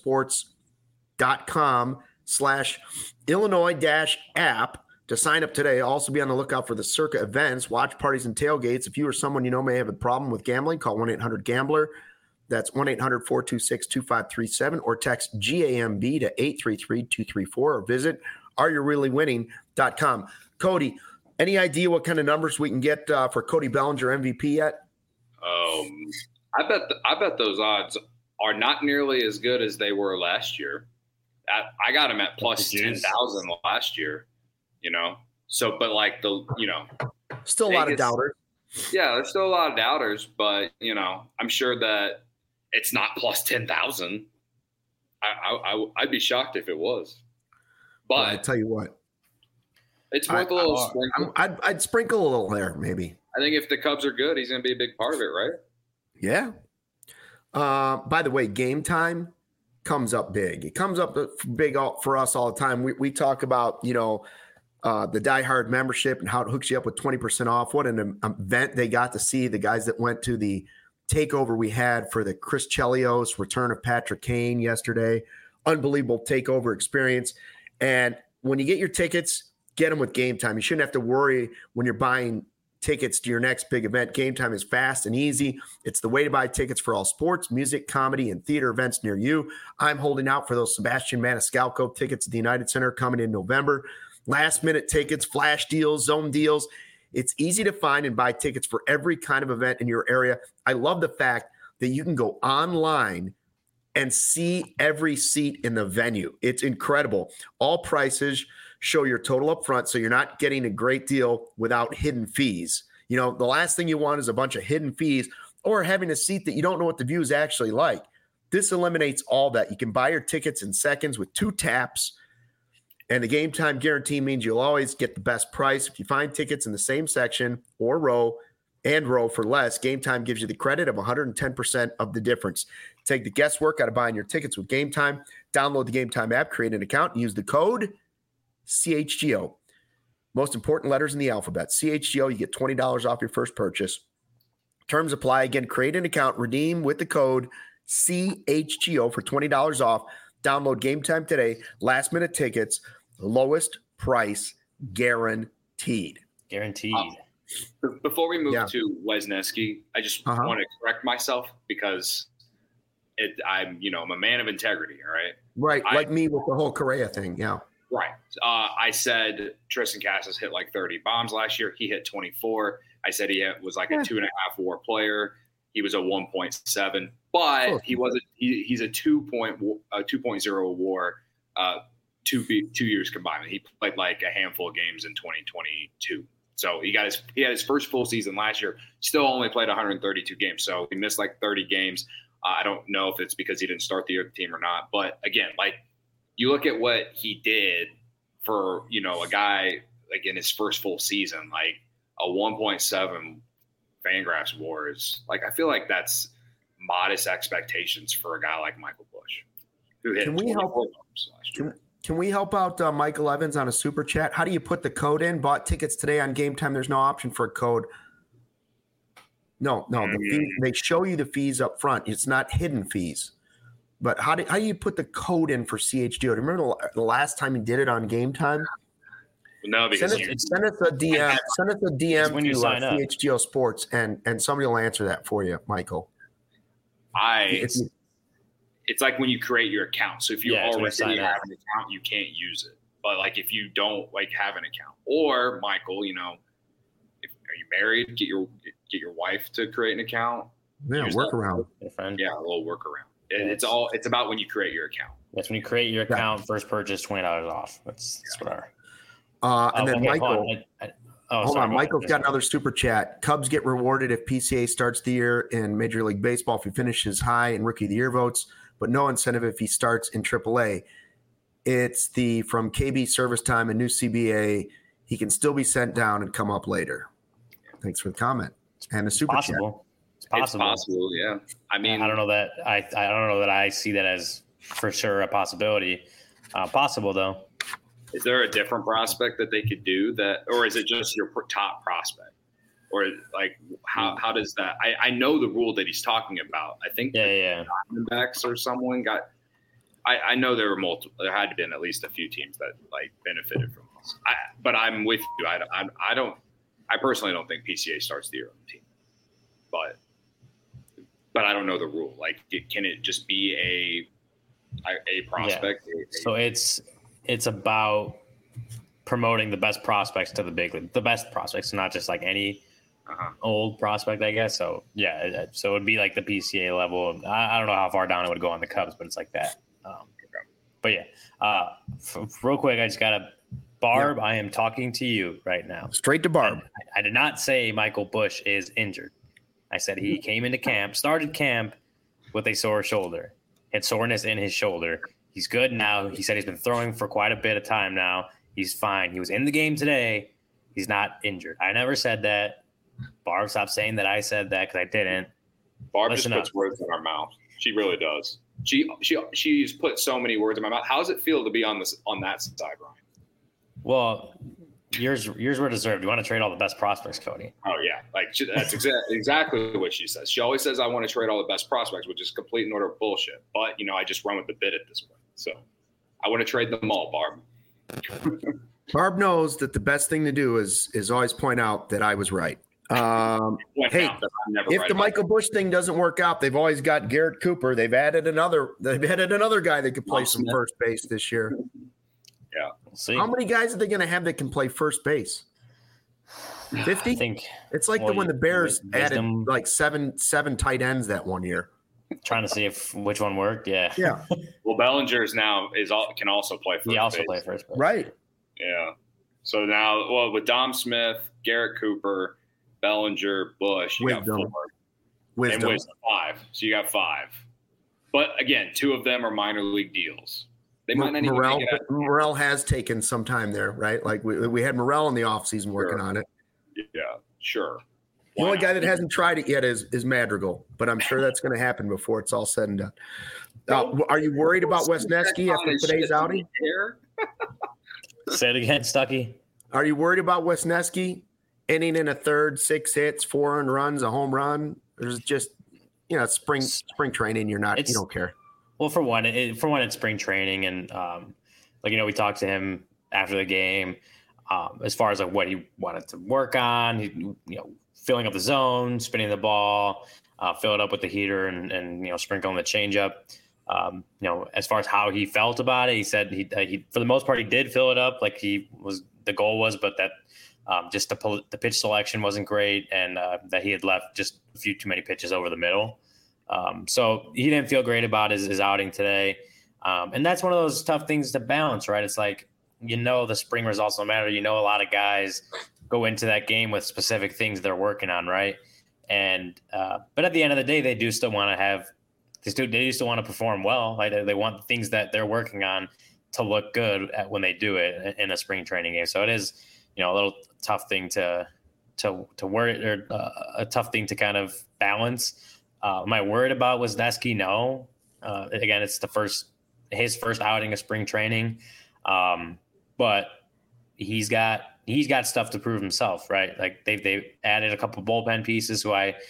circasports.com slash Illinois dash app to sign up today. Also be on the lookout for the Circa events, watch parties, and tailgates. If you or someone you know may have a problem with gambling, call one eight hundred gambler. That's one eight hundred four two six two five three seven or text G A M B to eight three three two three four or visit are you really winning dot com. Cody, Any idea what kind of numbers we can get uh, for Cody Bellinger M V P yet? Um, I bet the, I bet those odds are not nearly as good as they were last year. I, I got him at plus ten thousand last year. You know, so but like the you know, still a lot of doubters. Yeah, there's still a lot of doubters, but you know, I'm sure that it's not plus ten thousand. I, I, I I'd be shocked if it was. But well, I tell you what, it's worth I, a little I, sprinkle. I'd, I'd sprinkle a little there, maybe. I think if the Cubs are good, he's going to be a big part of it, right? Yeah. Uh, by the way, Game Time comes up big. It comes up big for us all the time. We we talk about you know uh, the Die Hard membership and how it hooks you up with twenty percent off. What an event they got to see. The guys that went to the takeover we had for the Chris Chelios return of Patrick Kane yesterday. Unbelievable takeover experience. And when you get your tickets, get them with Game Time. You shouldn't have to worry when you're buying tickets to your next big event. Game Time is fast and easy. It's the way to buy tickets for all sports, music, comedy, and theater events near you. I'm holding out for those Sebastian Maniscalco tickets at the United Center coming in November. Last minute tickets, flash deals, zone deals. It's easy to find and buy tickets for every kind of event in your area. I love the fact that you can go online and see every seat in the venue. It's incredible. All prices show your total up front, so you're not getting a great deal without hidden fees. You know, the last thing you want is a bunch of hidden fees or having a seat that you don't know what the view is actually like. This eliminates all that. You can buy your tickets in seconds with two taps, and the Game Time guarantee means you'll always get the best price. If you find tickets in the same section or row and row for less, Game Time gives you the credit of one hundred ten percent of the difference. Take the guesswork out of buying your tickets with Game Time. Download the Game Time app, create an account, and use the code C H G O. Most important letters in the alphabet. C H G O, you get twenty dollars off your first purchase. Terms apply. Again, create an account, redeem with the code C H G O for twenty dollars off. Download Game Time today. Last minute tickets, lowest price guaranteed. Guaranteed. Uh, before we move yeah. to Wesneski, I just uh-huh. want to correct myself because it, I'm, you know, I'm a man of integrity. All right. Right. I, like me with the whole Correa thing. Yeah. Right. Uh, I said Tristan Casas hit like thirty bombs last year. He hit twenty-four. I said he was like a two and a half WAR player. He was a one point seven, but oh. he wasn't. He, he's a two point a two point oh WAR, uh, two two years combined. He played like a handful of games in twenty twenty-two. So he got his he had his first full season last year. Still only played one hundred thirty-two games. So he missed like thirty games. Uh, I don't know if it's because he didn't start the year team or not. But again, like you look at what he did for you know a guy like in his first full season, like a one point seven Fangraphs WAR is like I feel like that's modest expectations for a guy like Michael Busch, who hit can we help last year. Can, can we help out uh, Michael Evans on a super chat? How do you put the code in? Bought tickets today on Game Time. There's no option for a code. No, no. The Mm. fee, they show you the fees up front. It's not hidden fees. But how do how do you put the code in for C H G O? Do you remember the last time you did it on Game Time? No, because send, you, us, send us a D M. Send us a D M when you to sign uh, up. C H G O Sports, and and somebody will answer that for you, Michael. I. If you, it's like when you create your account. So if you Yeah, it's when you already sign have up. an account, you can't use it. But like if you don't like have an account, or Michael, you know, if are you married, get your get your wife to create an account. yeah, Use work that. around. Your friend. Yeah, a little workaround. It, it's all. It's about when you create your account. That's when you create your account, first purchase, twenty dollars off. That's that's what our. Uh, and Oh, then okay, Michael. hold on. I- I- oh, Hold sorry, on, go Michael's ahead. got another super chat. Cubs get rewarded if P C A starts the year in Major League Baseball if he finishes high in Rookie of the Year votes, but no incentive if he starts in triple A. It's the from K B Service Time and new C B A. He can still be sent down and come up later. Thanks for the comment and the super chat. Possible. It's possible. It's possible. Yeah. I mean, I don't know that I I don't know that I see that as for sure a possibility. Uh, possible though. is there a different prospect that they could do that, or is it just your top prospect? Or like how how does that? I, I know the rule that he's talking about. I think yeah, yeah. Diamondbacks or someone got. I, I know there were multiple. There had to been at least a few teams that like benefited from this. I, but I'm with you. I, I I don't. I personally don't think P C A starts the year on the team. But but I don't know the rule. Like, it, can it just be a a prospect? Yeah. A, a, so it's it's about promoting the best prospects to the big league, the best prospects, not just like any uh-huh. old prospect, I guess. So yeah, so it'd be like the P C A level. I, I don't know how far down it would go on the Cubs, but it's like that. Um, but yeah, uh, f- real quick, I just gotta Barb. Yeah. I am talking to you right now. Straight to Barb. I, I did not say Michael Busch is injured. I said he came into camp, started camp with a sore shoulder, had soreness in his shoulder. He's good now. He said he's been throwing for quite a bit of time now. He's fine. He was in the game today. He's not injured. I never said that. Barb, stop saying that I said that because I didn't. Barb Listen just puts up. words in our mouth. She really does. She she she's put so many words in my mouth. How does it feel to be on this on that side, Ryan? Well, yours yours were deserved. You want to trade all the best prospects, Cody? Oh yeah, like she, that's exa- exactly what she says. She always says I want to trade all the best prospects, which is complete and utter bullshit. But you know, I just run with the bit at this point. So I want to trade them all, Barb. Barb knows that the best thing to do is is always point out that I was right. Um, hey, if right the Michael it. Busch thing doesn't work out, they've always got Garrett Cooper. They've added another. They've added another guy that could play some first base this year. Yeah, we'll see. How many guys are they going to have that can play first base? Fifty. I think it's like well, the when the Bears added like seven seven tight ends that one year. Trying to see if which one worked. Yeah. Yeah. Well, Bellinger is now is all can also play first. He also base. play first base. Right. Yeah. So now, well, with Dom Smith, Garrett Cooper, Bellinger, Busch, you Wisdom. got four. Wisdom. And Wisdom, five. So you got five. But again, two of them are minor league deals. They might not Morel, even Morel has taken some time there, right? Like we, we had Morel in the offseason working sure. on it. Yeah, sure. The Why only not? guy that hasn't tried it yet is, is Madrigal, but I'm sure that's going to happen before it's all said and done. Uh, are you worried about Wesneski after today's outing? Say it again, Stuckey. Are you worried about Wesneski inning in a third, six hits, four earned runs, a home run? There's just, you know, spring spring training. You're not, it's, you don't care. Well, for one, it, for one, it's spring training, and um, like you know, we talked to him after the game um, as far as like what he wanted to work on. He, you know, filling up the zone, spinning the ball, uh, fill it up with the heater, and and you know, sprinkling the changeup. Um, you know, as far as how he felt about it, he said he, uh, he for the most part he did fill it up like he was the goal was, but that um, just the the pitch selection wasn't great, and uh, that he had left just a few too many pitches over the middle. Um, so he didn't feel great about his, his outing today, um, and that's one of those tough things to balance, right? It's like you know the spring results don't matter. You know a lot of guys go into that game with specific things they're working on, right? And uh, but at the end of the day, they do still want to have. They still, they still want to perform well. Like they want the things that they're working on to look good at when they do it in a spring training game. So it is, you know, a little tough thing to to to worry or uh, a tough thing to kind of balance. Uh, am I worried about Wesneski? No. Uh, again, it's the first his first outing of spring training, um, but he's got he's got stuff to prove himself, right? Like they they added a couple bullpen pieces who I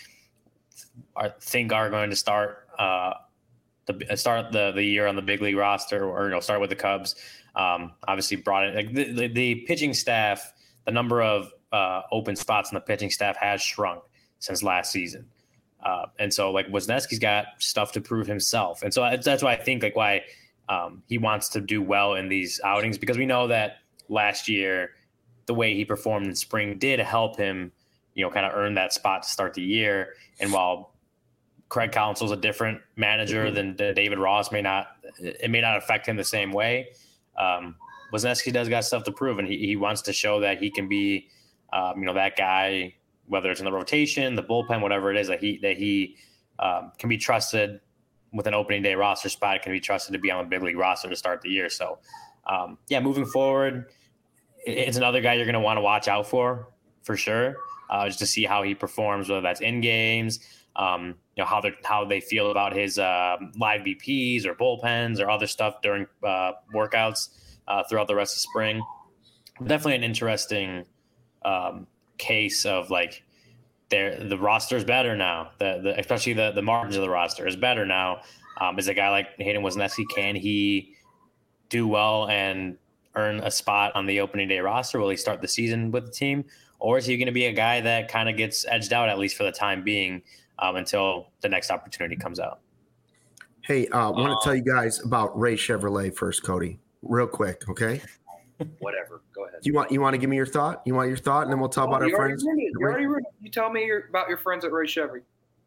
are, think are going to start. Uh, the start the, the year on the big league roster, or you know, start with the Cubs. Um, obviously, brought in like the, the, the pitching staff. The number of uh, open spots in the pitching staff has shrunk since last season, uh, and so like Wesneski's got stuff to prove himself, and so that's why I think like why um, he wants to do well in these outings, because we know that last year the way he performed in spring did help him, you know, kind of earn that spot to start the year, and while Craig Counsell's a different manager than David Ross. May not it may not affect him the same way. Um, Wesneski does got stuff to prove, and he, he wants to show that he can be, um, you know, that guy, whether it's in the rotation, the bullpen, whatever it is, that he that he um, can be trusted with an opening day roster spot. Can be trusted to be on the big league roster to start the year. So, um, yeah, moving forward, it's another guy you're going to want to watch out for for sure, uh, just to see how he performs, whether that's in games. Um, you know, how they how they feel about his uh, live B Ps or bullpens or other stuff during uh, workouts uh, throughout the rest of spring. Definitely an interesting um, case of like the roster is better now. The, the especially the the margins of the roster is better now. Um, is a guy like Hayden Wesneski, can he do well and earn a spot on the opening day roster? Will he start the season with the team, or is he going to be a guy that kind of gets edged out at least for the time being? Um, until the next opportunity comes out. Hey, I uh, want to tell you guys about Ray Chevrolet first, Cody, real quick, okay? Whatever. Go ahead. Do you want you want to give me your thought? You want your thought, and then we'll talk oh, about our you friends. Already you already ruined it. You tell me your, about your friends at Ray Chevy.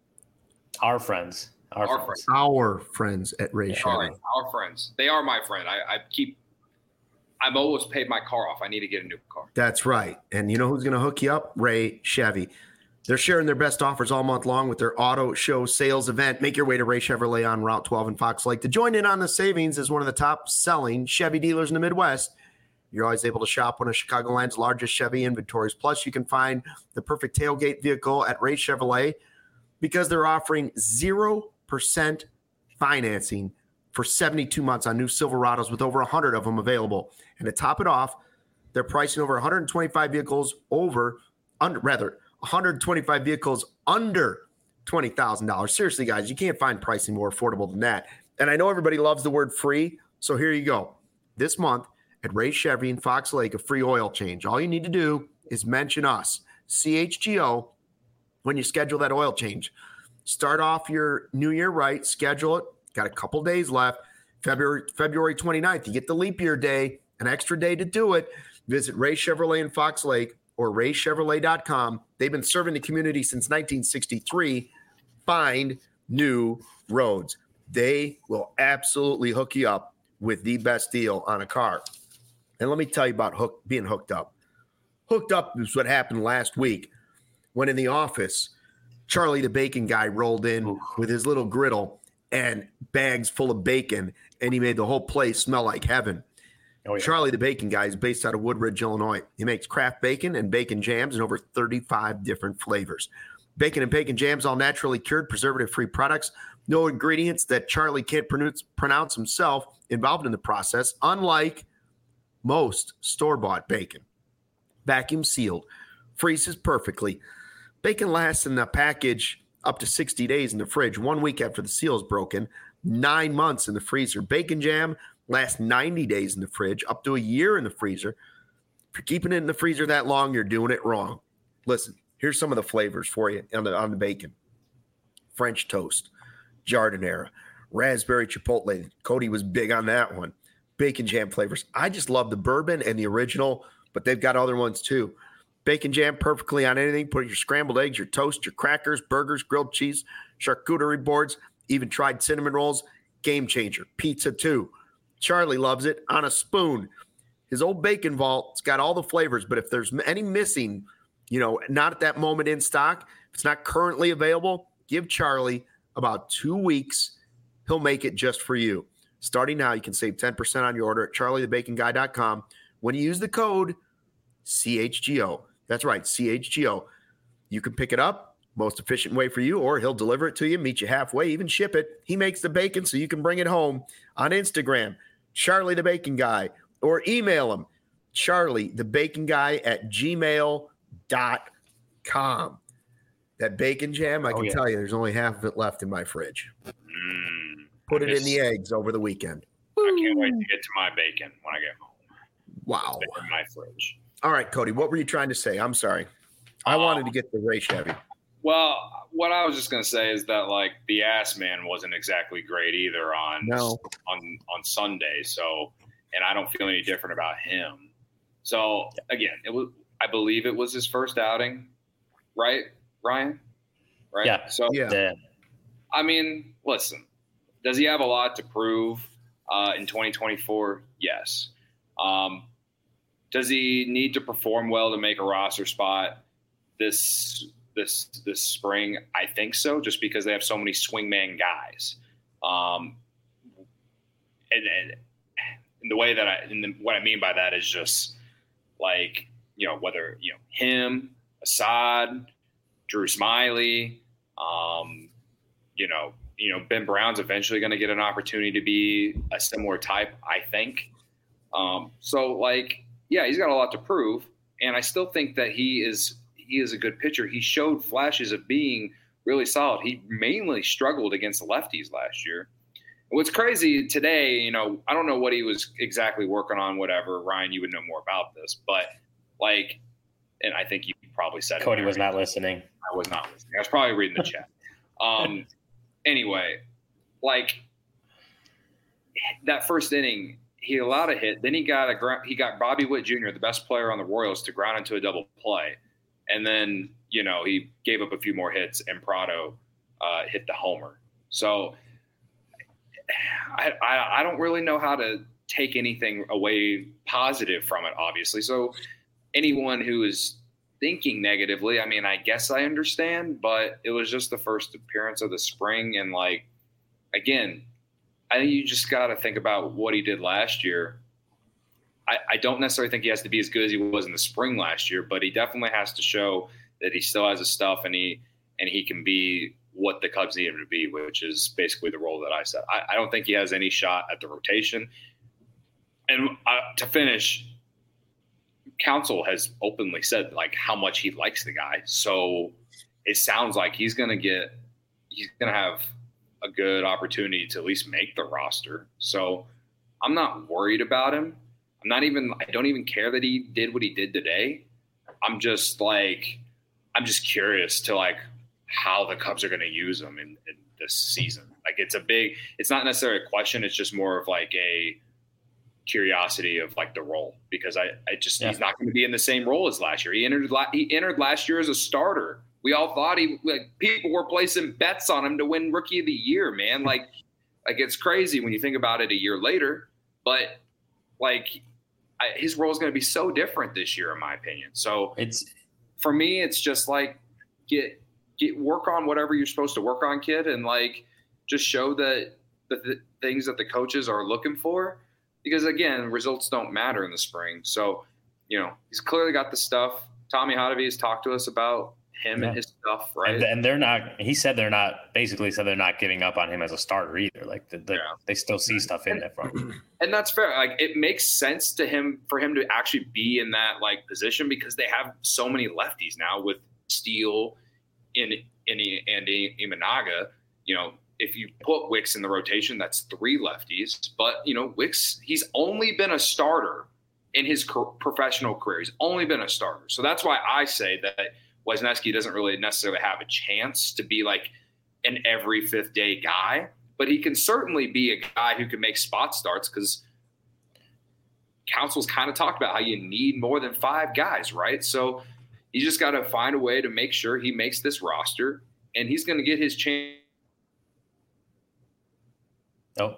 Our friends. Our, our friends. friends. Our friends at Ray Chevy. Our, our friends. They are my friend. I, I keep. I've almost paid my car off. I need to get a new car. That's right. And you know who's going to hook you up? Ray Chevy. They're sharing their best offers all month long with their auto show sales event. Make your way to Ray Chevrolet on Route twelve in Fox Lake to join in on the savings as one of the top selling Chevy dealers in the Midwest. You're always able to shop one of Chicagoland's largest Chevy inventories. Plus, you can find the perfect tailgate vehicle at Ray Chevrolet because they're offering zero percent financing for seventy-two months on new Silverados with over one hundred of them available. And to top it off, they're pricing over one hundred twenty-five vehicles over, under, rather, one hundred twenty-five vehicles under twenty thousand dollars. Seriously, guys, you can't find pricing more affordable than that. And I know everybody loves the word free, so here you go. This month at Ray Chevy in Fox Lake, a free oil change. All you need to do is mention us, C H G O, when you schedule that oil change. Start off your new year right, schedule it. Got a couple days left. February February twenty-ninth, you get the leap year day, an extra day to do it. Visit Ray Chevrolet in Fox Lake or ray chevrolet dot com. They've been serving the community since nineteen sixty-three. Find new roads. They will absolutely hook you up with the best deal on a car. And let me tell you about hook, being hooked up. Hooked up is what happened last week when in the office, Charlie the bacon guy rolled in with his little griddle and bags full of bacon, and he made the whole place smell like heaven. Oh, yeah. Charlie the bacon guy is based out of Woodridge, Illinois. He makes craft bacon and bacon jams in over thirty-five different flavors. Bacon and bacon jams, all naturally cured, preservative-free products. No ingredients that Charlie can't pronounce, pronounce himself involved in the process, unlike most store-bought bacon. Vacuum sealed, freezes perfectly. Bacon lasts in the package up to sixty days in the fridge, one week after the seal is broken, nine months in the freezer. Bacon jam lasts ninety days in the fridge, up to a year in the freezer. If you're keeping it in the freezer that long, you're doing it wrong. Listen, here's some of the flavors for you on the, on the bacon. French toast, jardinera, raspberry chipotle. Cody was big on that one. Bacon jam flavors. I just love the bourbon and the original, but they've got other ones too. Bacon jam perfectly on anything. Put your scrambled eggs, your toast, your crackers, burgers, grilled cheese, charcuterie boards, even tried cinnamon rolls. Game changer. Pizza too. Charlie loves it on a spoon. His old bacon vault, it's got all the flavors, but if there's any missing, you know, not at that moment in stock, if it's not currently available, give Charlie about two weeks. He'll make it just for you. Starting now, you can save ten percent on your order at charlie the bacon guy dot com when you use the code C H G O. That's right, C H G O. You can pick it up, most efficient way for you, or he'll deliver it to you, meet you halfway, even ship it. He makes the bacon so you can bring it home. On Instagram, Charlie the Bacon Guy, or email him, Charlie the Bacon Guy at gmail dot com. That bacon jam, I can oh, yeah. tell you, there's only half of it left in my fridge. Mm, Put I it miss, in the eggs over the weekend. I can't wait to get to my bacon when I get home. Wow. It's in my fridge. All right, Cody, what were you trying to say? I'm sorry. I um, wanted to get the Ray Chevy. Well, what I was just going to say is that, like, the ass man wasn't exactly great either on, no. on on Sunday. So, and I don't feel any different about him. So, again, it was. I believe it was his first outing, right, Ryan? Right? Yeah. So, yeah. I mean, listen, does he have a lot to prove uh, in twenty twenty-four? Yes. Um, does he need to perform well to make a roster spot this this this spring? I think so, just because they have so many swingman guys. Um, and, and, and the way that I and the, what I mean by that is just like, you know, whether, you know, him, Assad, Drew Smiley, um, you know, you know, Ben Brown's eventually going to get an opportunity to be a similar type, I think. Um, so, like, yeah, he's got a lot to prove, and I still think that he is he is a good pitcher. He showed flashes of being really solid. He mainly struggled against the lefties last year. And what's crazy today, you know, I don't know what he was exactly working on, whatever. Ryan, you would know more about this, but, like, and I think you probably said Cody it. was not listening. I was not listening. I was probably reading the chat. Um, anyway, like, that first inning, he allowed a hit. Then he got a he got Bobby Witt Junior, the best player on the Royals, to ground into a double play, and then you know he gave up a few more hits, and Prado uh, hit the homer. So I, I I don't really know how to take anything away positive from it, obviously. So anyone who is thinking negatively, I mean, I guess I understand, but it was just the first appearance of the spring. And like, again, I think you just got to think about what he did last year. I, I don't necessarily think he has to be as good as he was in the spring last year, but he definitely has to show that he still has his stuff and he, and he can be what the Cubs need him to be, which is basically the role that I said. I, I don't think he has any shot at the rotation. And uh, to finish, Counsell has openly said like how much he likes the guy. So it sounds like he's going to get, he's going to have a good opportunity to at least make the roster. So I'm not worried about him. I'm not even, I don't even care that he did what he did today. I'm just like, I'm just curious to like how the Cubs are going to use him in, in this season. Like it's a big, it's not necessarily a question. It's just more of like a curiosity of like the role, because I, I just, yeah. he's not going to be in the same role as last year. He entered, he entered last year as a starter. We all thought he, like people were placing bets on him to win Rookie of the Year, man. Like, like it's crazy when you think about it a year later, but like I, his role is going to be so different this year, in my opinion. So it's, for me, it's just like get, get work on whatever you're supposed to work on, kid. And like, just show that the, the things that the coaches are looking for, because again, results don't matter in the spring. So, you know, he's clearly got the stuff. Tommy Hotovy has talked to us about him yeah. and his stuff, right? And, and they're not, he said they're not, basically said they're not giving up on him as a starter either. Like the, the, yeah. they still see stuff in and, there from him. And that's fair. Like it makes sense to him for him to actually be in that like position, because they have so many lefties now with Steele in, in, and Imanaga. You know, if you put Wicks in the rotation, that's three lefties. But, you know, Wicks, he's only been a starter in his co- professional career. He's only been a starter. So that's why I say that Wesneski doesn't really necessarily have a chance to be like an every fifth day guy, but he can certainly be a guy who can make spot starts, because Counsell's kind of talked about how you need more than five guys, right? So you just got to find a way to make sure he makes this roster, and he's going to get his chance. Oh.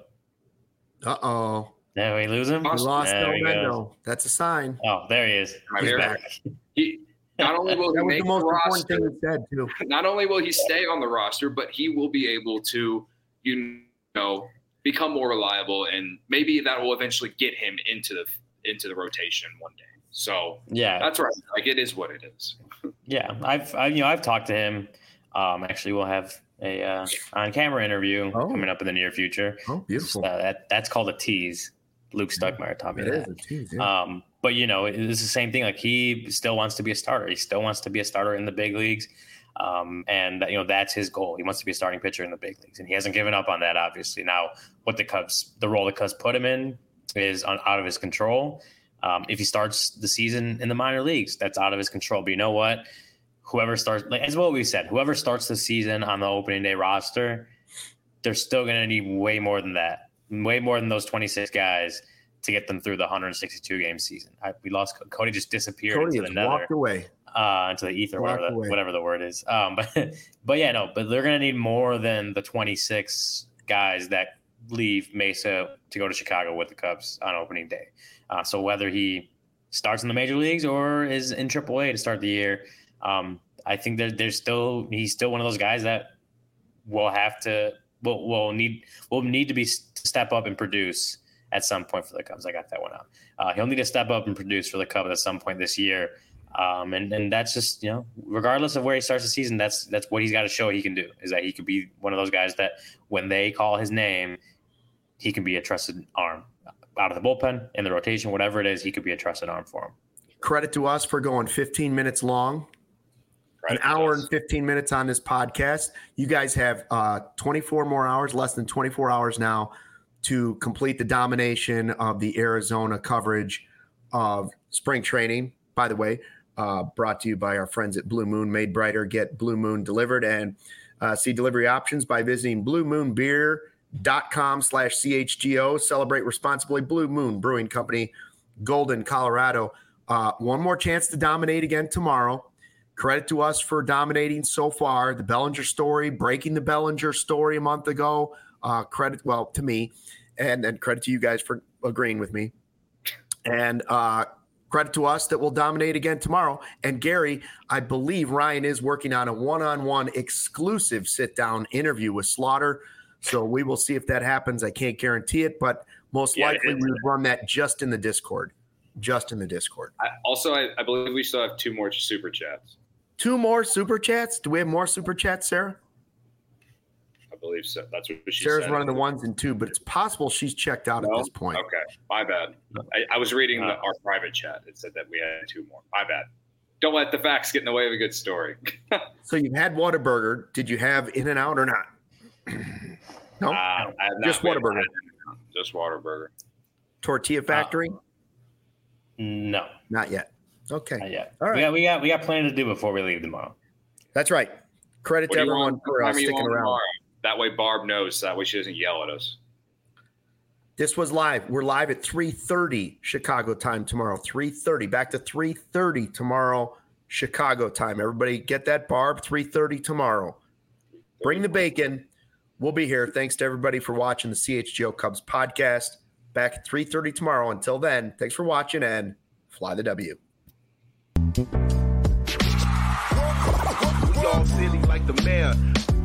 Uh-oh. Did we lose him? We lost Delmendo. That's a sign. Oh, there he is. Right He's here. back. He, not only will he that was make the most the important roster, thing he said, too. Not only will he stay on the roster, but he will be able to, you know, become more reliable, and maybe that will eventually get him into the into the rotation one day. So yeah, that's right. Like it is what it is. Yeah, I've I, you know I've talked to him. Um, actually, we'll have a uh, on-camera interview oh. coming up in the near future. Oh, beautiful. Uh, that that's called a tease. Luke Stuckmeyer taught me it that. Is a tease, yeah. Um, but you know, it's the same thing. Like he still wants to be a starter. He still wants to be a starter in the big leagues. Um, and you know, that's his goal. He wants to be a starting pitcher in the big leagues, and he hasn't given up on that, obviously. Now, what the Cubs, the role the Cubs put him in is on, out of his control. Um, if he starts the season in the minor leagues, that's out of his control. But you know what? Whoever starts, like, as what we said, whoever starts the season on the opening day roster, they're still going to need way more than that, way more than those twenty-six guys to get them through the one hundred sixty-two game season. I, we lost Cody, just disappeared Cody into the nether, walked away, uh, into the ether, whatever the, whatever the word is. Um, but but yeah, no, but they're going to need more than the twenty-six guys that leave Mesa to go to Chicago with the Cubs on opening day. Uh, so whether he starts in the major leagues or is in triple A to start the year, um, I think there, there's still he's still one of those guys that will have to will will need will need to be step up and produce at some point for the Cubs. I got that one out. Uh, he'll need to step up and produce for the Cubs at some point this year, um, and and that's just, you know, regardless of where he starts the season, that's that's what he's got to show he can do, is that he could be one of those guys that when they call his name, he can be a trusted arm out of the bullpen, in the rotation, whatever it is, he could be a trusted arm for him. Credit to us for going fifteen minutes long. An hour and fifteen minutes on this podcast. You guys have uh, twenty-four more hours, less than twenty-four hours now, to complete the domination of the Arizona coverage of spring training. By the way, uh, brought to you by our friends at Blue Moon. Made brighter, get Blue Moon delivered, and uh, see delivery options by visiting blue moon beer dot com slash C H G O. Celebrate responsibly. Blue Moon Brewing Company, Golden, Colorado. Uh, one more chance to dominate again tomorrow. Credit to us for dominating so far. The Bellinger story, breaking the Bellinger story a month ago. Uh, credit, well, to me, and and credit to you guys for agreeing with me. And uh, credit to us that we'll dominate again tomorrow. And Gary, I believe Ryan is working on a one-on-one exclusive sit-down interview with Slaughter. So we will see if that happens. I can't guarantee it, but most yeah, likely we would run that just in the Discord. Just in the Discord. I, also, I, I believe we still have two more super chats. Two more super chats? Do we have more super chats, Sarah? I believe so. That's what she Sarah's said. running the ones and two, but it's possible she's checked out no? at this point. Okay, my bad. I, I was reading uh, the, our private chat. It said that we had two more. My bad. Don't let the facts get in the way of a good story. So you've had Whataburger. Did you have In-N-Out or not? No, uh, I have not just Whataburger. Just Whataburger. Tortilla Factory? Uh, no, not yet. Okay, not yet. All right, we got we got we got plenty to do before we leave tomorrow. That's right. Credit what to everyone for uh, sticking around. Tomorrow? That way, Barb knows. That way, she doesn't yell at us. This was live. We're live at three thirty Chicago time tomorrow. three thirty. Back to three thirty tomorrow Chicago time. Everybody get that, Barb. three thirty tomorrow. Bring the bacon. We'll be here. Thanks to everybody for watching the C H G O Cubs podcast. Back at three thirty tomorrow. Until then, thanks for watching and fly the W. We all silly like the mayor.